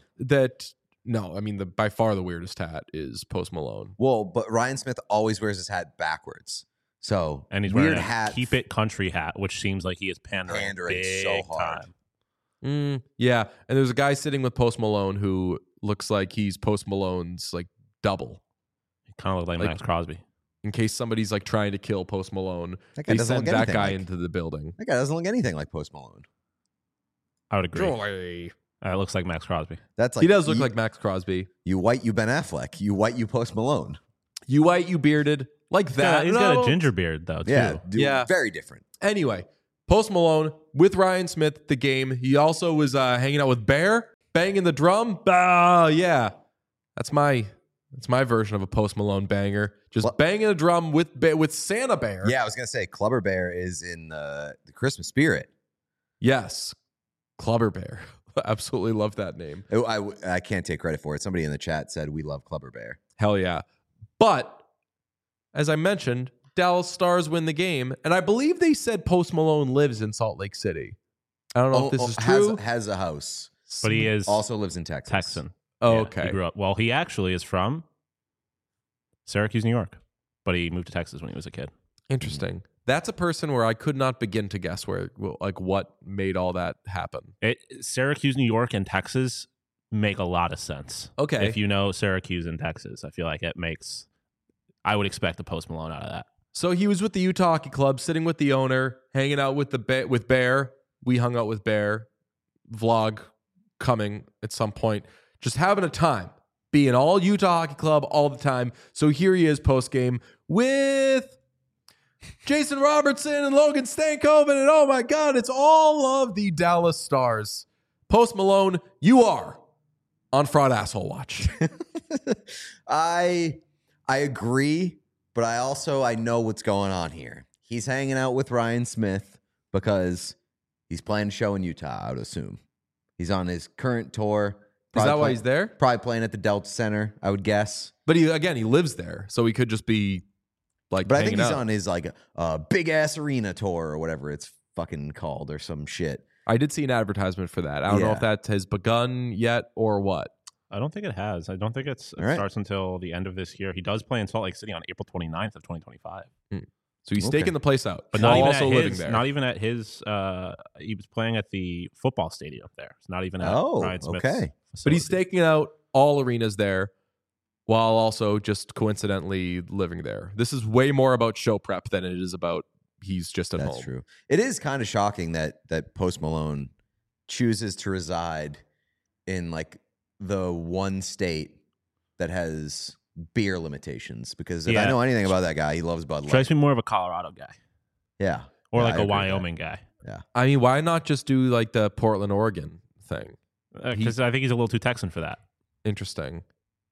No, I mean, by far the weirdest hat is Post Malone. Well, but Ryan Smith always wears his hat backwards. So, and he's weird wearing a hat. Keep It country hat, which seems like he is pandering big so hard. time. Yeah, and there's a guy sitting with Post Malone who looks like he's Post Malone's like double. He kind of looks like Max Crosby. In case somebody's like trying to kill Post Malone, they send that guy into the building. That guy doesn't look anything like Post Malone. I would agree. Joy. It looks like Max Crosby. That's like he does look like Max Crosby. You white, you Ben Affleck. You white, you Post Malone. You white, you bearded. Like that. He's got a ginger beard, though, too. Yeah, very different. Anyway, Post Malone with Ryan Smith, the game. He also was hanging out with Bear. Banging the drum? Yeah. That's my version of a Post Malone banger. Just banging a drum with Santa Bear. Yeah, I was going to say Clubber Bear is in the Christmas spirit. Yes. Clubber Bear. Absolutely love that name. I can't take credit for it. Somebody in the chat said we love Clubber Bear. Hell yeah. But as I mentioned, Dallas Stars win the game. And I believe they said Post Malone lives in Salt Lake City. I don't know if this is true. Has a house. But he is also lives in Texas. Texan. Oh, Yeah, okay. He grew up. Well, he actually is from Syracuse, New York, but he moved to Texas when he was a kid. Interesting. That's a person where I could not begin to guess what made all that happen. Syracuse, New York, and Texas make a lot of sense. Okay. If you know Syracuse and Texas, I feel like I would expect a Post Malone out of that. So he was with the Utah Hockey Club, sitting with the owner, hanging out with with Bear. We hung out with Bear. Vlog coming at some point. Just having a time. Being all Utah Hockey Club all the time. So here he is post game with Jason Robertson and Logan Stankoven. And oh my God, it's all of the Dallas Stars. Post Malone, you are on Fraud Asshole Watch. I agree, but I know what's going on here. He's hanging out with Ryan Smith because he's playing a show in Utah, I would assume. He's on his current tour. Is that why he's there? Probably playing at the Delta Center, I would guess. But he lives there, so he could just be like. But I think he's out on his big ass arena tour or whatever it's fucking called or some shit. I did see an advertisement for that. I don't know if that has begun yet or what. I don't think it has. I don't think it starts until the end of this year. He does play in Salt Lake City on April 29th of 2025. So he's staking the place out, but not even living there. Not even at his. He was playing at the football stadium there. It's not even at Ryan Smith's facility. But he's staking out all arenas there, while also just coincidentally living there. This is way more about show prep than it is about he's just at home. That's true. It is kind of shocking that Post Malone chooses to reside in like the one state that has beer limitations, because if I know anything about that guy, he loves Bud Light. Strikes me more of a Colorado guy. Yeah. Or like a Wyoming guy. Yeah. I mean, why not just do like the Portland, Oregon thing? Because I think he's a little too Texan for that. Interesting.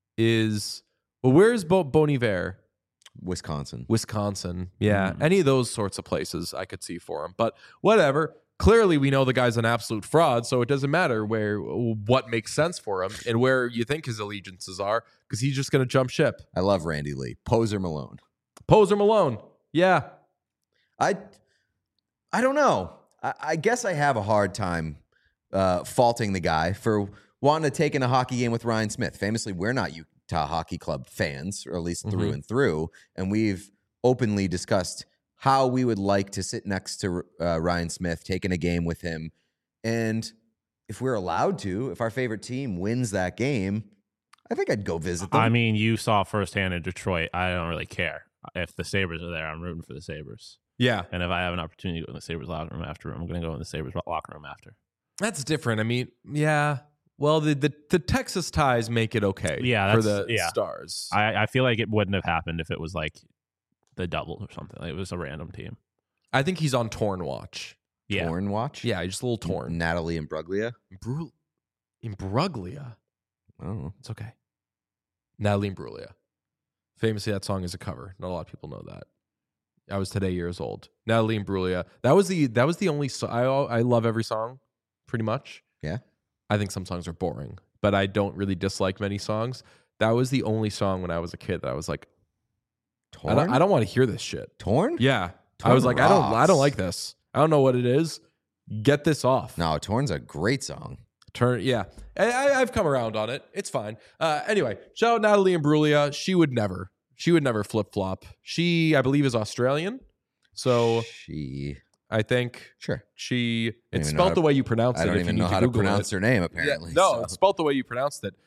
Where's Bon Iver? Wisconsin. Yeah. Any of those sorts of places I could see for him. But whatever. Clearly, we know the guy's an absolute fraud, so it doesn't matter what makes sense for him and where you think his allegiances are, because he's just going to jump ship. I love Randy Lee. Poser Malone. Yeah. I don't know. I guess I have a hard time faulting the guy for wanting to take in a hockey game with Ryan Smith. Famously, we're not Utah Hockey Club fans, or at least through and through, and we've openly discussed how we would like to sit next to Ryan Smith, taking a game with him. And if we're allowed to, if our favorite team wins that game, I think I'd go visit them. I mean, you saw firsthand in Detroit. I don't really care. If the Sabres are there, I'm rooting for the Sabres. Yeah. And if I have an opportunity to go in the Sabres locker room after, I'm going to go in the Sabres locker room after. That's different. I mean, yeah. Well, the Texas ties make it okay for the Stars. I feel like it wouldn't have happened if it was like the double or something. It was a random team. I think he's on torn watch. Yeah. Torn watch? Yeah, just a little torn. Natalie Imbruglia? Imbruglia? Oh. It's okay. Natalie Imbruglia. Famously, that song is a cover. Not a lot of people know that. I was today years old. Natalie Imbruglia. That was the only song. I love every song, pretty much. Yeah. I think some songs are boring, but I don't really dislike many songs. That was the only song when I was a kid that I was like, Torn? I don't want to hear this shit. Torn? Yeah. Torn I was like, rocks. I don't like this. I don't know what it is. Get this off. No, Torn's a great song. Yeah. I've come around on it. It's fine. Anyway, shout out Natalie Imbruglia. She would never flip-flop. She, I believe, is Australian. So I think it's spelled the way you pronounce it. I don't even know how to pronounce her name, apparently. Yeah, it's spelled the way you pronounced it.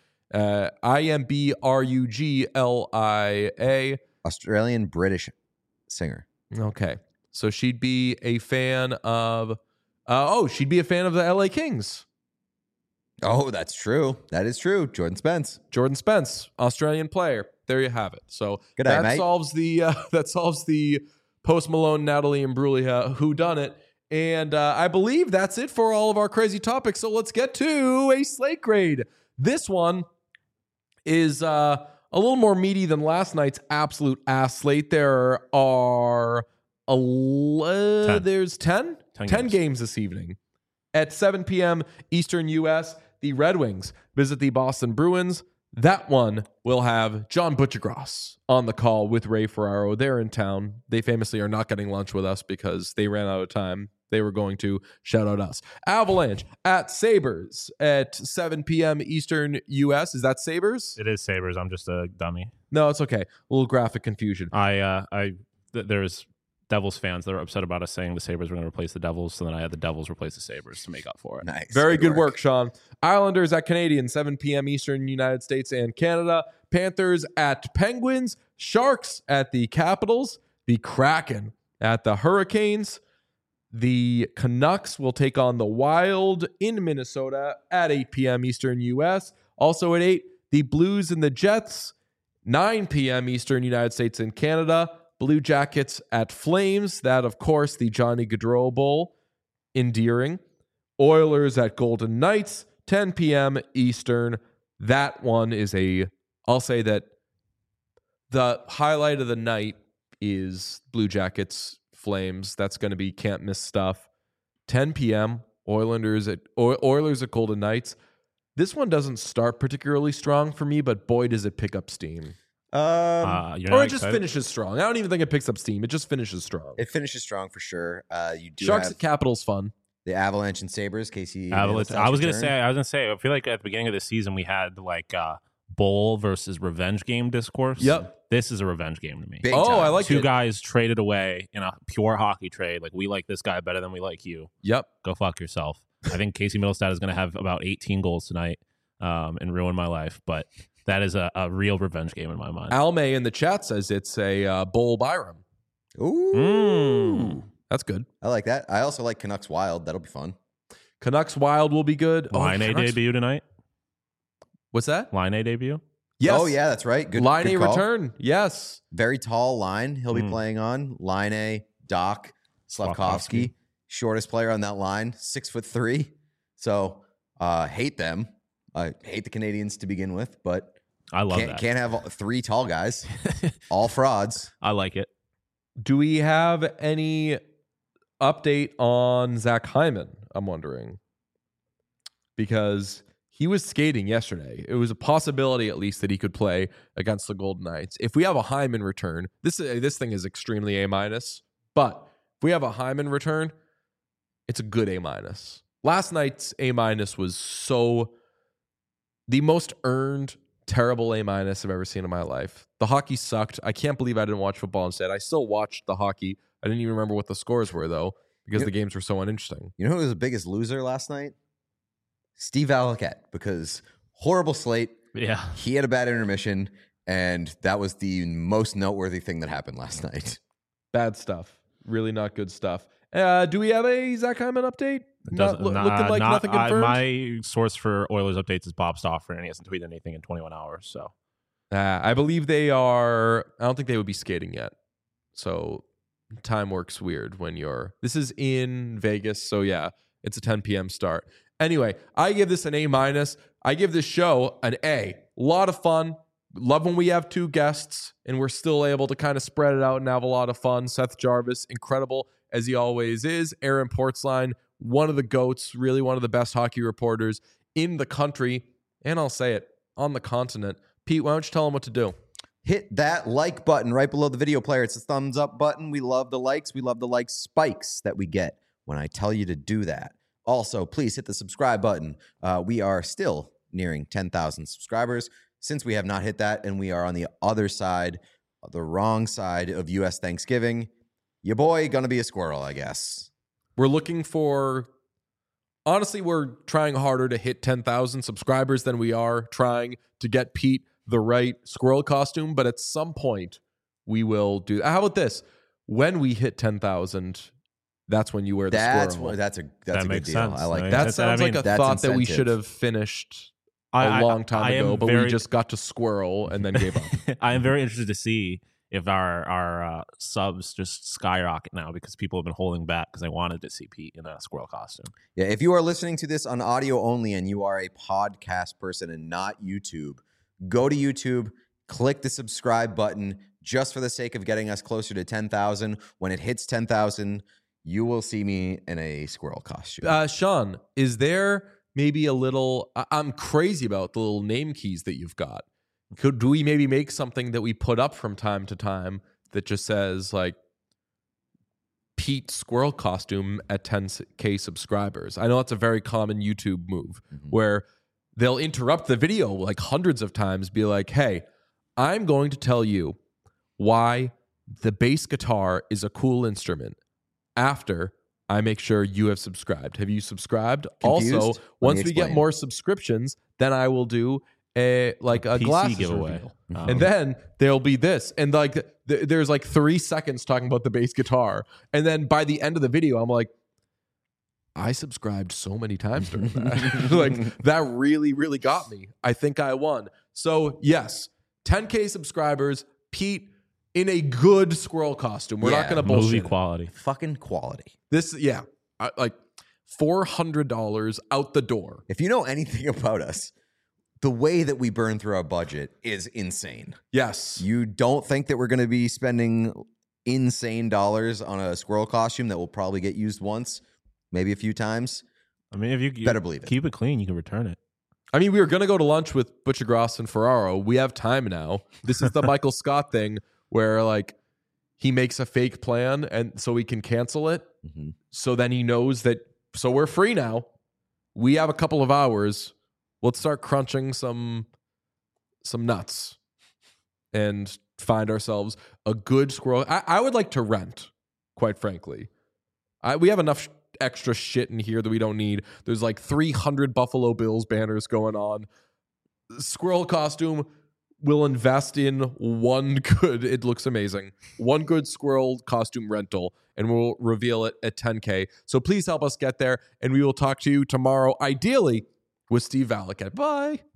Imbruglia. Australian British singer. Okay. So she'd be a fan of she'd be a fan of the LA Kings. Oh, that's true. That is true. Jordan Spence, Australian player. There you have it. So good night, that solves the Post Malone, Natalie Imbruglia whodunit. And I believe that's it for all of our crazy topics. So let's get to a slate grade. This one is a little more meaty than last night's absolute ass slate. There are 10 games this evening. At 7 p.m. Eastern U.S., the Red Wings visit the Boston Bruins. That one will have John Butchergross on the call with Ray Ferraro. They're in town. They famously are not getting lunch with us because they ran out of time. They were going to shout out us. Avalanche at Sabres at 7 p.m. Eastern U.S. Is that Sabres? It is Sabres. I'm just a dummy. No, it's okay. A little graphic confusion. There's Devils fans that are upset about us saying the Sabres were going to replace the Devils, so then I had the Devils replace the Sabres to make up for it. Nice. Very good work, Sean. Islanders at Canadiens, 7 p.m. Eastern, United States and Canada. Panthers at Penguins. Sharks at the Capitals. The Kraken at the Hurricanes. The Canucks will take on the Wild in Minnesota at 8 p.m. Eastern U.S. Also at 8, the Blues and the Jets. 9 p.m. Eastern, United States and Canada. Blue Jackets at Flames. That, of course, the Johnny Gaudreau Bowl. Endearing. Oilers at Golden Knights. 10 p.m. Eastern. That one is I'll say that the highlight of the night is Blue Jackets Flames. That's going to be can't miss stuff. 10 p.m. Oilers at Golden Knights. This one doesn't start particularly strong for me, but boy, does it pick up steam. Or it just finishes strong. I don't even think it picks up steam. It just finishes strong. It finishes strong for sure. You do Sharks have at Capitals fun. the Avalanche and Sabres. Casey, Avalanche. I was gonna say. I feel like at the beginning of the season we had like bowl versus revenge game discourse. Yep. This is a revenge game to me. Big time. I like Two it. guys traded away in a pure hockey trade. Like, we like this guy better than we like you. Yep. Go fuck yourself. I think Casey Middlestad is going to have about 18 goals tonight and ruin my life. But that is a real revenge game in my mind. Almay in the chat says it's a Bowl Byram. Ooh. That's good. I like that. I also like Canucks Wild. That'll be fun. Canucks Wild will be good. Line A debut tonight. What's that? Line A debut. Yes. Oh, yeah, that's right. Good Line good A call. return. Yes. Very tall line he'll be playing on. Line A, Doc, Slavkovsky. Shortest player on that line, 6'3". So hate them. I hate the Canadians to begin with, but I love that. Can't have three tall guys. All frauds. I like it. Do we have any update on Zach Hyman? I'm wondering. Because he was skating yesterday. It was a possibility, at least, that he could play against the Golden Knights. If we have a Hyman return, this thing is extremely A-. But if we have a Hyman return, it's a good A-. Last night's A- was so the most earned, terrible A- I've ever seen in my life. The hockey sucked. I can't believe I didn't watch football instead. I still watched the hockey. I didn't even remember what the scores were, though, because the games were so uninteresting. You know who was the biggest loser last night? Steve Alliquette, because horrible slate. Yeah. He had a bad intermission, and that was the most noteworthy thing that happened last night. Bad stuff. Really not good stuff. Do we have a Zach Hyman update? Looking like nothing confirmed? My source for Oilers updates is Bob Stauffer, and he hasn't tweeted anything in 21 hours. So I believe they are. I don't think they would be skating yet. So time works weird when you're. This is in Vegas, so yeah, it's a 10 p.m. start. Anyway, I give this an A-. I give this show an A. A lot of fun. Love when we have two guests and we're still able to kind of spread it out and have a lot of fun. Seth Jarvis, incredible as he always is. Aaron Portzline, one of the GOATs, really one of the best hockey reporters in the country. And I'll say it, on the continent. Pete, why don't you tell him what to do? Hit that like button right below the video player. It's a thumbs up button. We love the likes. We love the like spikes that we get when I tell you to do that. Also, please hit the subscribe button. We are still nearing 10,000 subscribers. Since we have not hit that and we are on the other side, the wrong side of U.S. Thanksgiving, your boy gonna be a squirrel, I guess. We're looking for... Honestly, we're trying harder to hit 10,000 subscribers than we are trying to get Pete the right squirrel costume. But at some point, we will do... How about this? When we hit 10,000... That's when you wear the squirrel. That's a That good makes deal. sense. I like I mean, that. That sounds like a that's thought that we incentive. should have finished a long time ago, but we just got to squirrel and then gave up. I am very interested to see if our subs just skyrocket now because people have been holding back because they wanted to see Pete in a squirrel costume. Yeah, if you are listening to this on audio only and you are a podcast person and not YouTube, go to YouTube, click the subscribe button just for the sake of getting us closer to 10,000. When it hits 10,000, you will see me in a squirrel costume. Sean, is there maybe a little... I'm crazy about the little name keys that you've got. Do we maybe make something that we put up from time to time that just says like Pete squirrel costume at 10K subscribers? I know that's a very common YouTube move where they'll interrupt the video like hundreds of times, be like, hey, I'm going to tell you why the bass guitar is a cool instrument after I make sure you have subscribed. Have you subscribed? Confused? Also, once we get more subscriptions, then I will do a PC glasses giveaway. reveal. And then there'll be this. And like there's like 3 seconds talking about the bass guitar. And then by the end of the video, I'm like, I subscribed so many times during that. Like that really, really got me. I think I won. So yes, 10K subscribers, Pete in a good squirrel costume. We're not going to bullshit. Movie quality. Fucking quality. This, yeah, like $400 out the door. If you know anything about us, the way that we burn through our budget is insane. Yes. You don't think that we're going to be spending insane dollars on a squirrel costume that will probably get used once, maybe a few times? I mean, if you better believe it. Keep it clean, you can return it. I mean, we were going to go to lunch with Butcher Gross and Ferraro. We have time now. This is the Michael Scott thing where like he makes a fake plan and so we can cancel it. So then he knows that, so we're free now. We have a couple of hours. Let's start crunching some nuts and find ourselves a good squirrel. I would like to rent, quite frankly. We have enough extra shit in here that we don't need. There's like 300 Buffalo Bills banners going on. Squirrel costume, we'll invest in one good, it looks amazing, one good squirrel costume rental, and we'll reveal it at 10K. So please help us get there, and we will talk to you tomorrow, ideally with Steve Valiquette. Bye.